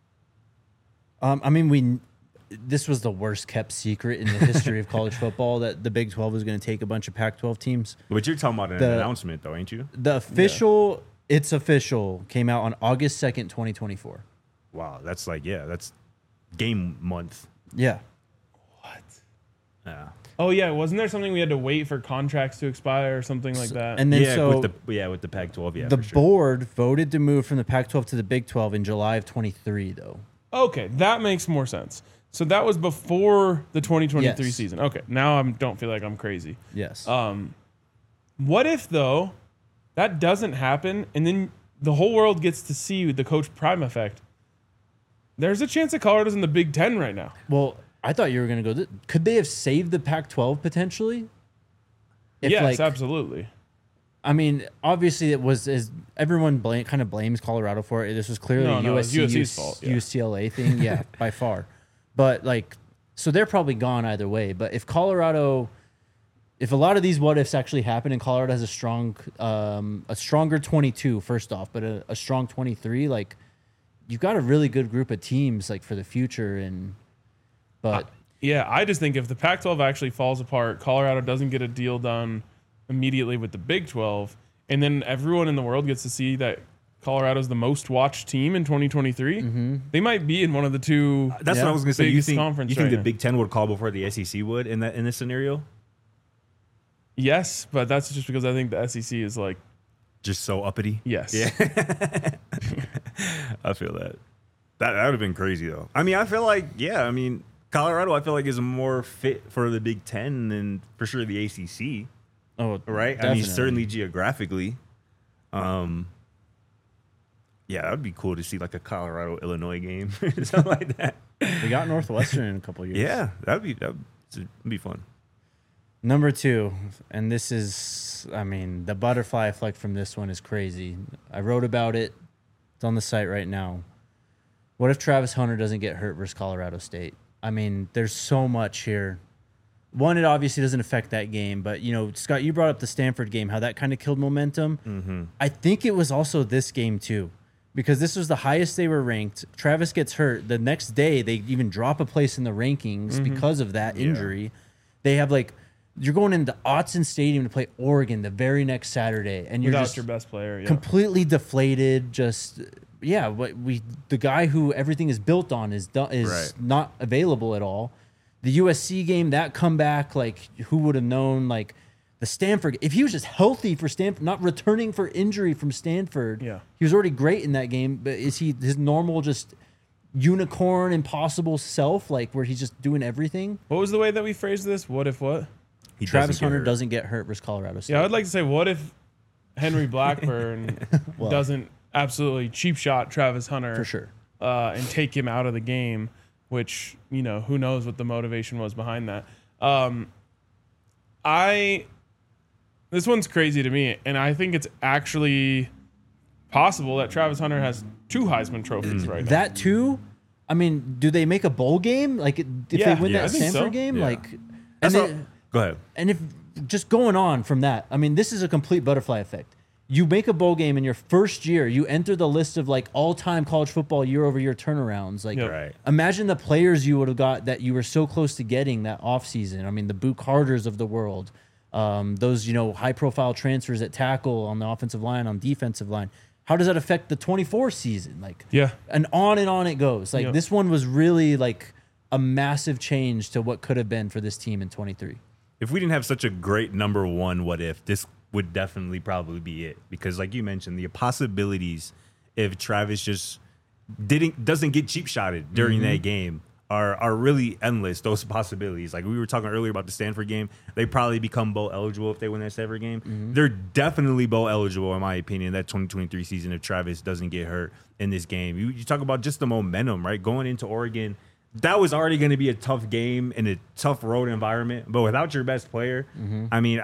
I mean, this was the worst kept secret in the history of college football that the Big 12 was going to take a bunch of Pac-12 teams. But you're talking about an announcement, though, ain't you? The official, it's official, came out on August 2nd, 2024. Wow, that's like that's game month. Yeah. What? Yeah, Oh yeah, wasn't there something we had to wait for contracts to expire or something like that? And then yeah, so with the Pac-12, yeah, the for sure. board voted to move from the Pac-12 to the Big 12 in July of 23, though. Okay, that makes more sense. So that was before the 2023 Yes. season. Okay, now I don't feel like I'm crazy. Yes. What if though that doesn't happen and then the whole world gets to see the Coach Prime effect? There's a chance that Colorado's in the Big 10 right now. Well, I thought you were going to go. Could they have saved the Pac-12 potentially? If, Yes, like, absolutely. I mean, obviously, it was as everyone kind of blames Colorado for it. This was clearly No, a no, it's USC, USC's fault, yeah. UCLA thing. Yeah, by far. But like, so they're probably gone either way. But if if a lot of these what ifs actually happen and Colorado has a stronger 22, first off, but a strong 23, like you've got a really good group of teams like for the future. But Yeah, I just think if the Pac-12 actually falls apart, Colorado doesn't get a deal done immediately with the Big 12, and then everyone in the world gets to see that Colorado's the most watched team in 2023, they might be in one of the two. That's Yeah. what I was going to say. You biggest think conference the right now. Big 10 would call before the SEC would in this scenario? Yes, but that's just because I think the SEC is like, Just so uppity. yes. Yeah. I feel that. That would have been crazy though. I mean, I feel like Colorado, I feel like is more fit for the Big 10 than for sure the ACC, oh, right? I definitely. mean, certainly geographically. Yeah, that would be cool to see like a Colorado Illinois game or something like that. We got Northwestern in a couple years. Yeah, that'd be fun. Number 2, and this is, I mean, the butterfly effect from this one is crazy. I wrote about it. It's on the site right now. What if Travis Hunter doesn't get hurt versus Colorado State? I mean, there's so much here. one, it obviously doesn't affect that game, but Scott, you brought up the Stanford game, how that kind of killed momentum. I think it was also this game too, because this was the highest they were ranked. Travis gets hurt. The next day, they even drop a place in the rankings because of that injury. They have you're going into Autzen Stadium to play Oregon the very next Saturday, and you're Without just your best player, completely deflated. The guy who everything is built on is Right. not available at all. The USC game, that comeback, who would have known? The Stanford, if he was just healthy for Stanford, not returning for injury from Stanford, he was already great in that game. But is he his normal just unicorn, impossible self, where he's just doing everything? What was the way that we phrased this? What if what? He Travis doesn't get Hunter hurt. doesn't get hurt versus Colorado State. Yeah, I would like to say, what if Henry Blackburn doesn't absolutely cheap shot Travis Hunter For sure. And take him out of the game, which, who knows what the motivation was behind that. This one's crazy to me, and I think it's actually possible that Travis Hunter has 2 Heisman trophies right now. That too. I mean, do they make a bowl game? If Yeah, they win I that think Stanford so. game, Yeah. and Go ahead. And if just going on from that, I mean, this is a complete butterfly effect. You make a bowl game in your first year, you enter the list of all-time college football year-over-year turnarounds. Right. Imagine the players you would have got that you were so close to getting that offseason. I mean, the Boo Carters of the world, those high-profile transfers at tackle, on the offensive line, on defensive line. How does that affect the 24 season? And on it goes. This one was really a massive change to what could have been for this team in 23. If we didn't have such a great number one, what if, this would definitely probably be it. Because like you mentioned, the possibilities if Travis just doesn't get cheap shotted during that game are really endless. Those possibilities. Like we were talking earlier about the Stanford game, they probably become bowl eligible if they win that Stanford game. They're definitely bowl eligible, in my opinion, that 2023 season if Travis doesn't get hurt in this game. You talk about just the momentum, right? Going into Oregon, that was already going to be a tough game in a tough road environment. But without your best player, I mean,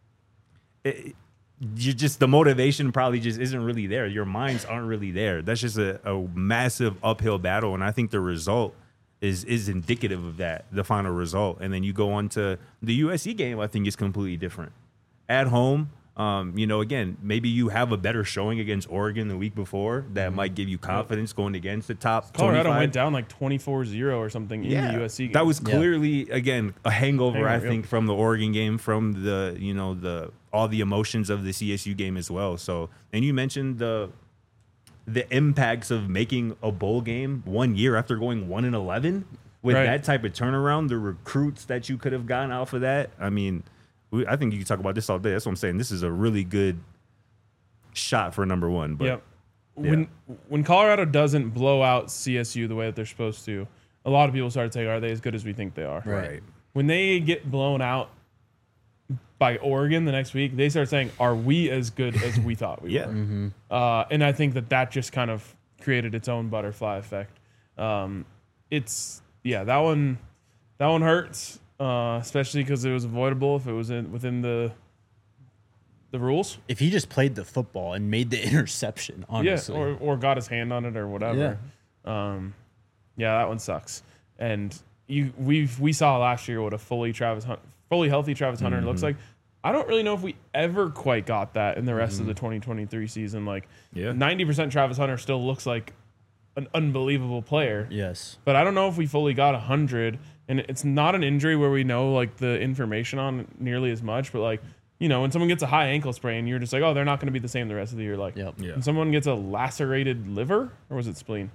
you just the motivation probably just isn't really there. Your minds aren't really there. That's just a massive uphill battle, and I think the result is indicative of that. The final result, and then you go on to the USC game. I think is completely different. At home, again, maybe you have a better showing against Oregon the week before that might give you confidence going against the top. Colorado 25. went down 24-0 or something in the USC game. That was clearly again a hangover, I think, yep. from the Oregon game, from the all the emotions of the CSU game as well. So, and you mentioned the impacts of making a bowl game 1 year after going 1-11 with Right. that type of turnaround, the recruits that you could have gotten off of that. I mean, I think you can talk about this all day. That's what I'm saying. This is a really good shot for number one. But Yep. When Colorado doesn't blow out CSU the way that they're supposed to, a lot of people start saying, "Are they as good as we think they are?" right. When they get blown out by Oregon the next week, they start saying, "Are we as good as we thought we Yeah. were?" And I think that just kind of created its own butterfly effect. That one hurts, especially because it was avoidable if it was within the rules. If he just played the football and made the interception, honestly. Yeah, or got his hand on it or whatever. That one sucks. And we saw last year what a fully healthy Travis Hunter looks like. I don't really know if we ever quite got that in the rest of the 2023 season. 90% Travis Hunter still looks like an unbelievable player. Yes. But I don't know if we fully got 100. And it's not an injury where we know the information on nearly as much, but when someone gets a high ankle sprain, you're just like, oh, they're not going to be the same the rest of the year. Yep. Yeah. When someone gets a lacerated liver, or was it spleen?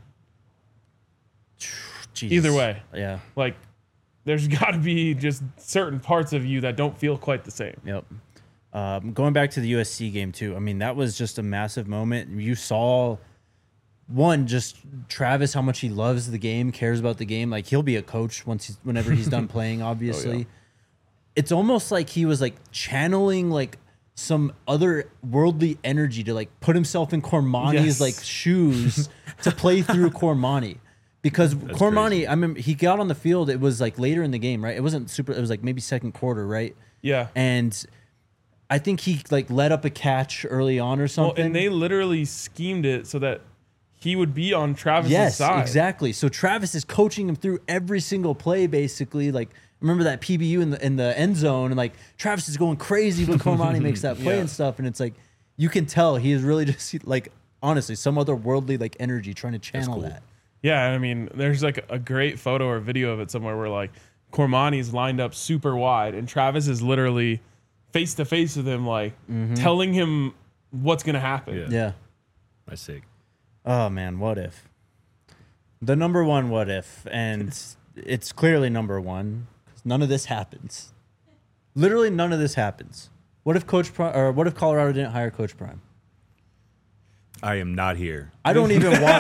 Jesus. Either way, Yeah. there's got to be just certain parts of you that don't feel quite the same. Yep. Going back to the USC game too. I mean, that was just a massive moment. You saw just Travis, how much he loves the game, cares about the game. He'll be a coach whenever he's done playing, obviously. Oh, yeah. It's almost like he was channeling some other worldly energy to put himself in Cormani's Yes. shoes to play through Cormani. Because Cormani, crazy. I remember he got on the field, it was later in the game, right? It wasn't super, it was maybe second quarter, right? Yeah. And I think he let up a catch early on or Well, something. and they literally schemed it so that he would be on Travis's yes, side. exactly. So Travis is coaching him through every single play, basically, remember that PBU in the end zone, and like Travis is going crazy when Cormani makes that play and stuff, and it's like you can tell he is really just like honestly some otherworldly like energy trying to channel that. Yeah, I mean, there's like a great photo or video of it somewhere where like Cormani's lined up super wide, and Travis is literally face to face with him, like telling him what's gonna happen. Yeah. That's sick. Oh man, what if? The number one what if, and it's clearly number one. 'Cause none of this happens. Literally none of this happens. What if what if Colorado didn't hire Coach Prime? I am not here. I don't even want.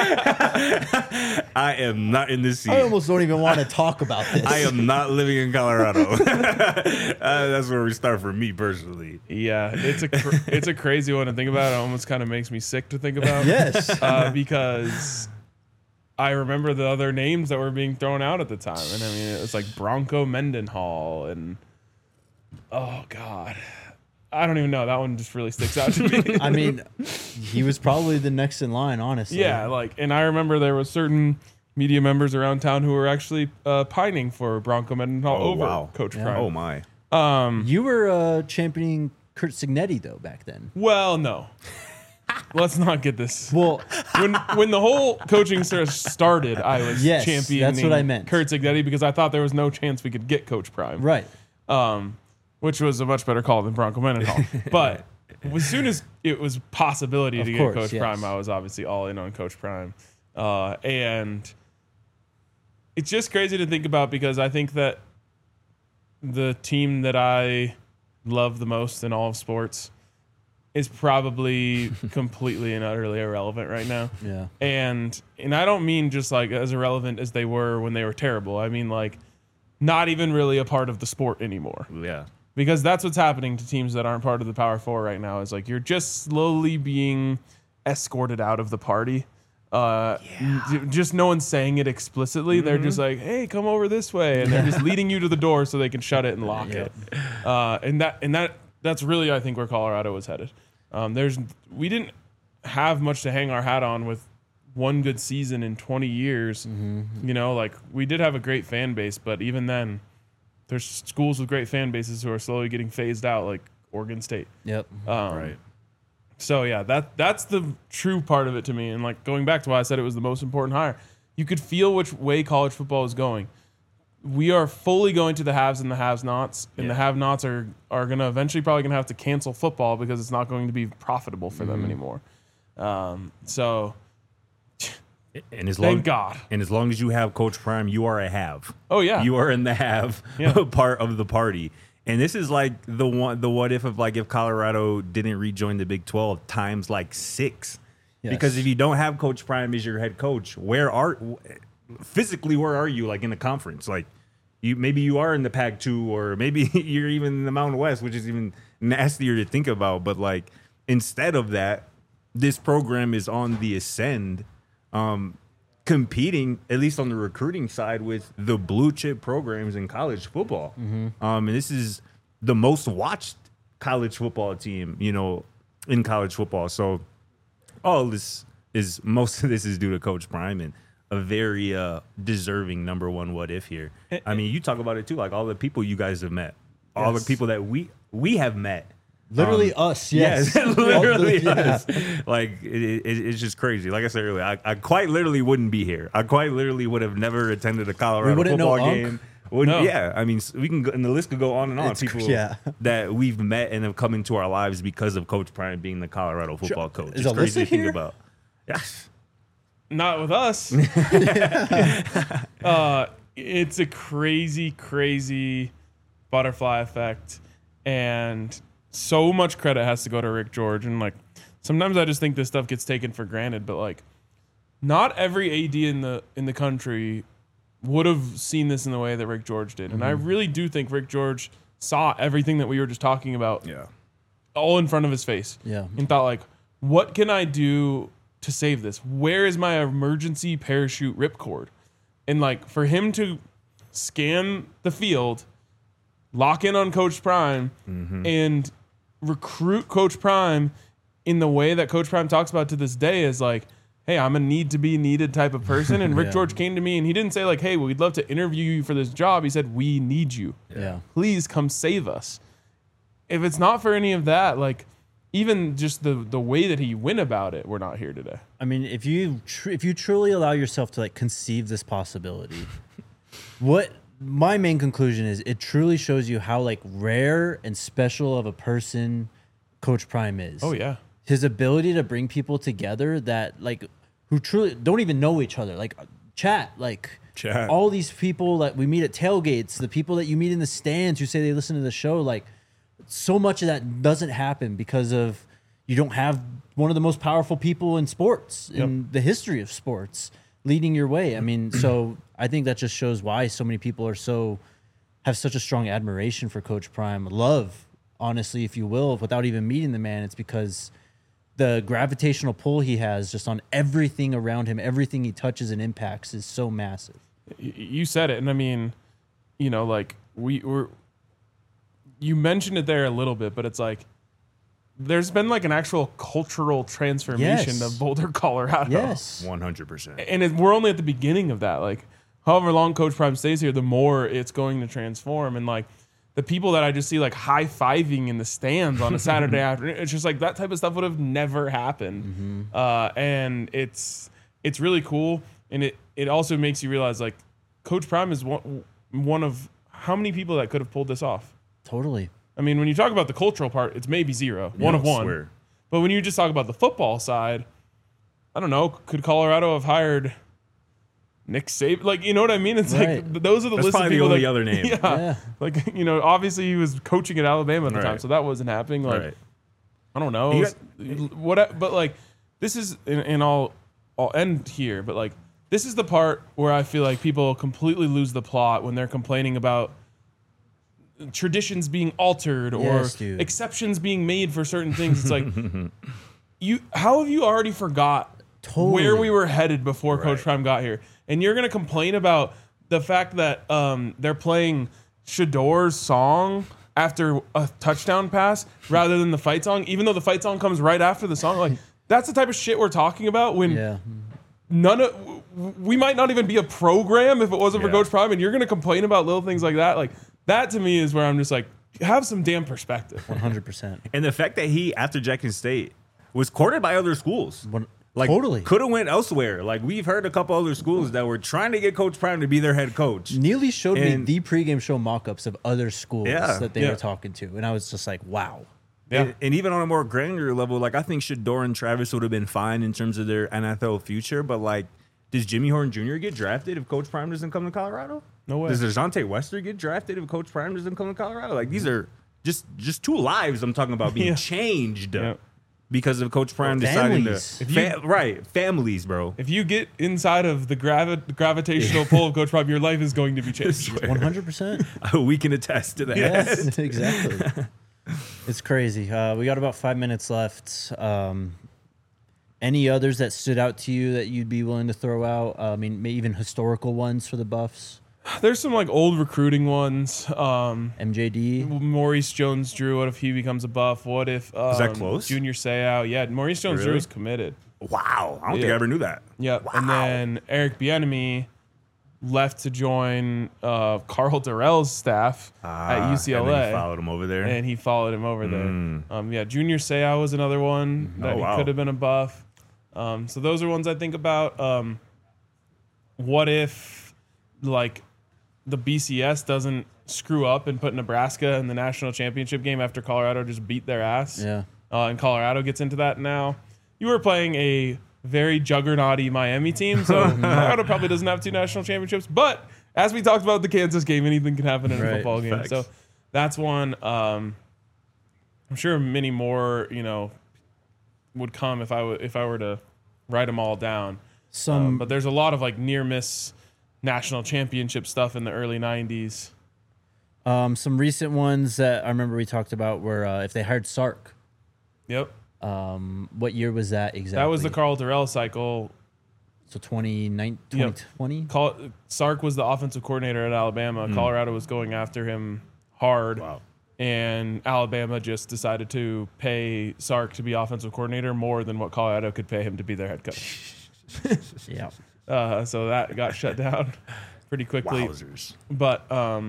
I am not in this seat. I almost don't even want to talk about this. I am not living in Colorado. That's where we start for me personally. Yeah, it's a crazy one to think about. It almost kind of makes me sick to think about. Yes. Because I remember the other names that were being thrown out at the time, and I mean it was like Bronco Mendenhall and oh god, I don't even know. That one just really sticks out to me. I mean, he was probably the next in line, honestly. Yeah, like, and I remember there was certain media members around town who were actually pining for Bronco Mendenhall over Coach Prime. Oh my. You were championing Kurt Signetti though back then. Well, no. Let's not get this. Well, when the whole coaching search started, I was championing that's what I meant. Kurt Signetti because I thought there was no chance we could get Coach Prime. right. Which was a much better call than Bronco Mendenhall. But as soon as it was possibility to get Coach Prime, I was obviously all in on Coach Prime. And it's just crazy to think about because I think that the team that I love the most in all of sports is probably completely and utterly irrelevant right now. Yeah. And I don't mean just like as irrelevant as they were when they were terrible. I mean like not even really a part of the sport anymore. Yeah. Because that's what's happening to teams that aren't part of the Power Four right now. Is like you're just slowly being escorted out of the party. Just no one's saying it explicitly. They're just like, "Hey, come over this way," and they're just leading you to the door so they can shut it and lock it. And that's really, I think, where Colorado was headed. We didn't have much to hang our hat on with one good season in 20 years. You know, like we did have a great fan base, but even then. There's schools with great fan bases who are slowly getting phased out, like Oregon State. Yep. Right. So yeah, that's the true part of it to me. And like going back to why I said it was the most important hire, you could feel which way college football is going. We are fully going to the haves and the have-nots, and the have-nots are going to eventually probably going to have to cancel football because it's not going to be profitable for them anymore. So. And Thank God. And as long as you have Coach Prime, you are a have. Oh yeah, you are in the have part of the party. And this is like the what if of like if Colorado didn't rejoin the Big 12 times like 6. Yes. Because if you don't have Coach Prime as your head coach, where are you like in the conference? Like maybe you are in the Pac-2 or maybe you're even in the Mountain West, which is even nastier to think about. But like instead of that, this program is on the ascend. Competing, at least on the recruiting side, with the blue chip programs in college football. And this is the most watched college football team, you know, in college football. So most of this is due to Coach Prime and a very deserving number one what if here. I mean, you talk about it too, like all the people you guys have met, all the people that we have met. Literally us, yes. Literally us. Like, it's just crazy. Like I said earlier, I quite literally wouldn't be here. I quite literally would have never attended a Colorado football game. Yeah, I mean, we can go, and the list could go on and on. People that we've met and have come into our lives because of Coach Prime being the Colorado football coach. Is it's crazy to think here? about. Yes. Not with us. It's a crazy, crazy butterfly effect. And so much credit has to go to Rick George. And like sometimes I just think this stuff gets taken for granted, but like not every AD in the country would have seen this in the way that Rick George did. And I really do think Rick George saw everything that we were just talking about all in front of his face. Yeah. And thought like, what can I do to save this? Where is my emergency parachute ripcord? And like for him to scan the field, lock in on Coach Prime, and recruit Coach Prime in the way that Coach Prime talks about to this day is like, hey, I'm a need to be needed type of person. And Rick Yeah. George came to me and he didn't say like, hey, we'd love to interview you for this job. He said, we need you. Yeah. Please come save us. If it's not for any of that, like even just the way that he went about it, we're not here today. I mean, if you truly allow yourself to like conceive this possibility, what my main conclusion is, it truly shows you how like rare and special of a person Coach Prime is. Oh yeah. His ability to bring people together that like who truly don't even know each other, like chat. All these people that we meet at tailgates, the people that you meet in the stands who say they listen to the show, like so much of that doesn't happen because of you don't have one of the most powerful people in sports, in the history of sports, leading your way. I mean, so I think that just shows why so many people have such a strong admiration for Coach Prime. Love, honestly, if you will, without even meeting the man. It's because the gravitational pull he has just on everything around him, everything he touches and impacts is so massive. You said it. And I mean, you know, like you mentioned it there a little bit, but it's like there's been like an actual cultural transformation Yes. of Boulder, Colorado. Yes. 100%. And we're only at the beginning of that. Like, however long Coach Prime stays here, the more it's going to transform. And like the people that I just see like high-fiving in the stands on a Saturday afternoon, it's just like that type of stuff would have never happened. And it's really cool. And it also makes you realize like Coach Prime is one of how many people that could have pulled this off. Totally. I mean, when you talk about the cultural part, it's maybe zero, one of one. Swear. But when you just talk about the football side, I don't know, could Colorado have hired Nick Saban? Like, you know what I mean? It's Right. like those are the That's list of probably the people only that, other name. Yeah, Yeah. like, you know, obviously he was coaching at Alabama at the time, Right. so that wasn't happening. Like, Right. I don't know, but like this is, and I'll end here, but like this is the part where I feel like people completely lose the plot when they're complaining about traditions being altered or Yes, dude. exceptions being made for certain things. It's like how have you already forgot Totally. where we were headed before Coach Right. Prime got here? And you're gonna complain about the fact that they're playing Shador's song after a touchdown pass rather than the fight song, even though the fight song comes right after the song. Like that's the type of shit we're talking about when Yeah. we might not even be a program if it wasn't for Yeah. Coach Prime, and you're going to complain about little things like that. Like that to me is where I'm just like, have some damn perspective. 100%. And the fact that he, after Jackson State, was courted by other schools. Like, Totally. could have went elsewhere. Like, we've heard a couple other schools that were trying to get Coach Prime to be their head coach. Neely showed me And- the pregame show mock-ups of other schools Yeah. that they Yeah. were talking to, and I was just like, wow. Yeah. And even on a more granular level, like, I think Shador and Travis would have been fine in terms of their NFL future, but, like, does Jimmy Horn Jr. get drafted if Coach Prime doesn't come to Colorado? No way. Does DeJounte Wester get drafted if Coach Prime doesn't come to Colorado? Like, these are just two lives I'm talking about being Yeah. changed Yeah. because of Coach Prime Families. deciding to... Right, families, bro. If you get inside of the gravitational pull of Coach Prime, your life is going to be changed. 100%. We can attest to that. Yes, exactly. It's crazy. We got about 5 minutes left. Any others that stood out to you that you'd be willing to throw out? I mean, maybe even historical ones for the Buffs. There's some like old recruiting ones. MJD. Maurice Jones-Drew, what if he becomes a Buff? What if that close? Junior Seau? Yeah, Maurice Jones-Drew Really? is committed. Wow. I don't think Yeah. I ever knew that. Yeah, Wow. and then Eric Bieniemy left to join Carl Durrell's staff at UCLA, And then he followed him over there. and he followed him over there. Yeah, Junior Seau was another one that wow. he could have been a Buff. So those are ones I think about. What if, like, the BCS doesn't screw up and put Nebraska in the national championship game after Colorado just beat their ass? Yeah. And Colorado gets into that now. You were playing a very juggernauty Miami team, so Colorado probably doesn't have 2 national championships. But as we talked about the Kansas game, anything can happen in a Right. football game. Facts. So that's one. I'm sure many more, would come if I were to write them all down. But there's a lot of like near miss national championship stuff in the early 90s. Some recent ones that I remember we talked about were if they hired Sark. Yep. What year was that exactly? That was the Carl Durrell cycle. So 2020? Sark was the offensive coordinator at Alabama. Colorado was going after him hard. Wow. And Alabama just decided to pay Sark to be offensive coordinator more than what Colorado could pay him to be their head coach. Yeah. So that got shut down pretty quickly. Wowzers. But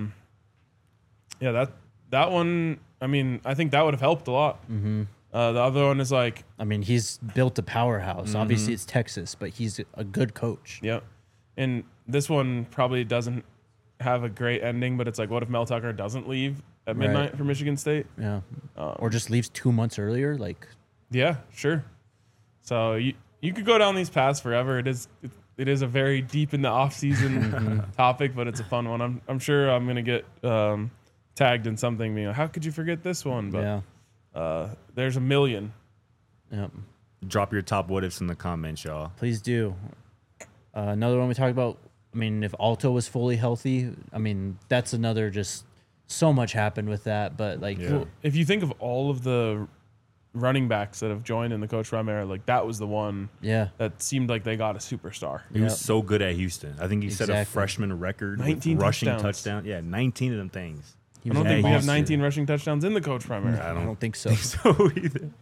yeah, that one. I mean, I think that would have helped a lot. Mm-hmm. The other one is like, I mean, he's built a powerhouse. Obviously, it's Texas, but he's a good coach. yep. And this one probably doesn't have a great ending, but it's like, what if Mel Tucker doesn't leave at midnight for Michigan State? Yeah. Or just leaves 2 months earlier. Like, Yeah, sure. So you could go down these paths forever. It is a very deep in the off season topic, but it's a fun one. I'm sure I'm gonna get tagged in something being like, how could you forget this one? But yeah. there's a million. Yep. Drop your top what ifs in the comments, y'all. Please do. Another one we talked about. I mean, if Alto was fully healthy, I mean, that's another just so much happened with that. But like, Yeah. If you think of all of the running backs that have joined in the Coach Prime era, like that was the one yeah. that seemed like they got a superstar. He was Yep. so good at Houston. I think he set a Exactly. freshman record 19 with rushing touchdowns. touchdown. Yeah, 19 of them things. He I was don't a think we have monster. 19 rushing touchdowns in the Coach Prime era. I don't think so. So either.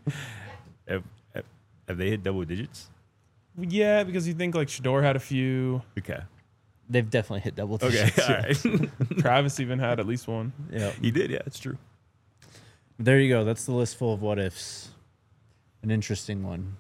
Have they hit double digits? Yeah, because you think like Shador had a few. Okay. They've definitely hit double Okay. digits. All right. Travis even had at least one. Yeah. He did. Yeah, it's true. There you go. That's the list full of what ifs. An interesting one.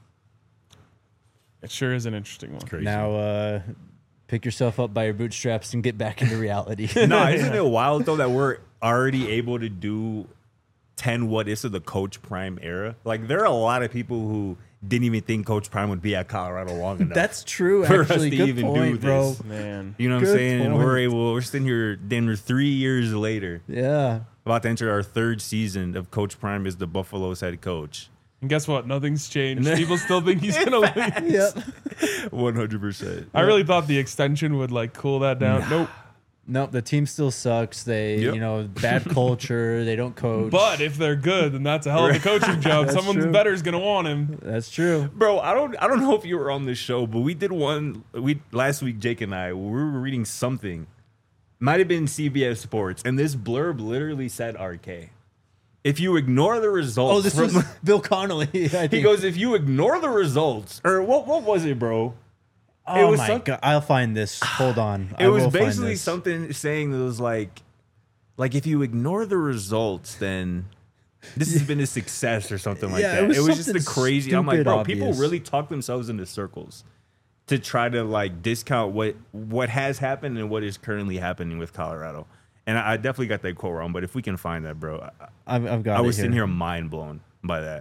It sure is an interesting one. Crazy. Now, pick yourself up by your bootstraps and get back into reality. No, isn't it wild though that we're already able to do 10 what ifs of the Coach Prime era? Like there are a lot of people who didn't even think Coach Prime would be at Colorado long enough. That's true, For us actually. to Good even do point, bro. this. Man. You know what I'm Good saying? And point. we're sitting here, Denver, 3 years later, Yeah. about to enter our third season of Coach Prime as the Buffalo's head coach. And guess what? Nothing's changed. People still think he's gonna leave. Yep. 100%. I really thought the extension would like cool that down. Nope. Nope, the team still sucks. They, Yep. you know, bad culture. They don't coach. But if they're good, then that's a hell of a coaching job. That's Someone's true. better is gonna want him. That's true. Bro, I don't know if you were on this show, but we did one last week, Jake and I, we were reading something. Might have been CBS Sports, and this blurb literally said RK. If you ignore the results, Oh, this was Bill Connolly. I think. he goes, if you ignore the results, or what was it, bro? Oh was my some- god! I'll find this. Hold on. It I was will find basically this. something saying that was like if you ignore the results, then this has been a success or something like Yeah, that. it was just a something crazy. I'm like, stupid bro, people obvious. really talk themselves into circles to try to like discount what has happened and what is currently happening with Colorado. And I definitely got that quote wrong, but if we can find that, bro, I've got. I it was sitting here mind blown by that.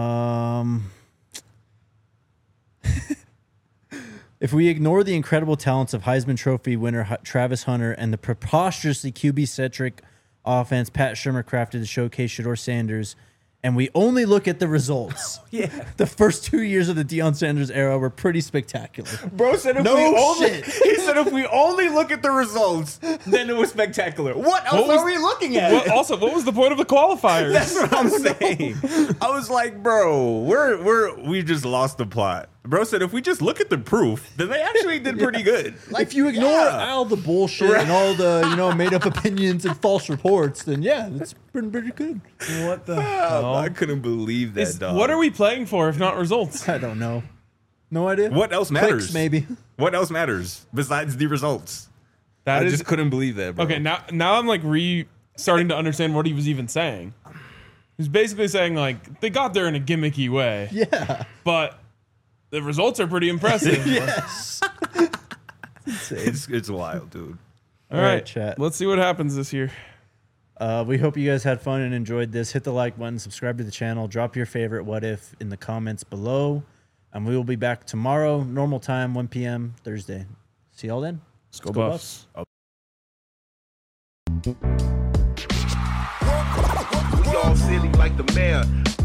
If we ignore the incredible talents of Heisman Trophy winner Travis Hunter and the preposterously QB-centric offense Pat Shurmur crafted to showcase Shador Sanders, and we only look at the results, the first 2 years of the Deion Sanders era were pretty spectacular. Bro said if No we only, shit. he said if we only look at the results, then it was spectacular. What else was- are we looking at? Well, also, what was the point of the qualifiers? That's what I'm saying. I was like, bro, we just lost the plot. Bro said if we just look at the proof, then they actually did pretty good. Like, If you ignore yeah. all the bullshit and all the made up opinions and false reports, then yeah, that's been pretty good. What the hell? I couldn't believe that, dog. What are we playing for if not results? I don't know. No idea. What else matters? Clicks, maybe. What else matters besides the results? That I is just couldn't believe that, bro. okay. Now I'm like starting to understand what he was even saying. He's basically saying like they got there in a gimmicky way, Yeah. but the results are pretty impressive. Yes. it's wild, dude. All All right, right, chat. Let's see what happens this year. We hope you guys had fun and enjoyed this. Hit the like button, subscribe to the channel, drop your favorite what if in the comments below. And we will be back tomorrow, normal time, 1 p.m. Thursday. See y'all then. Let's go Buffs. We all silly like the mayor.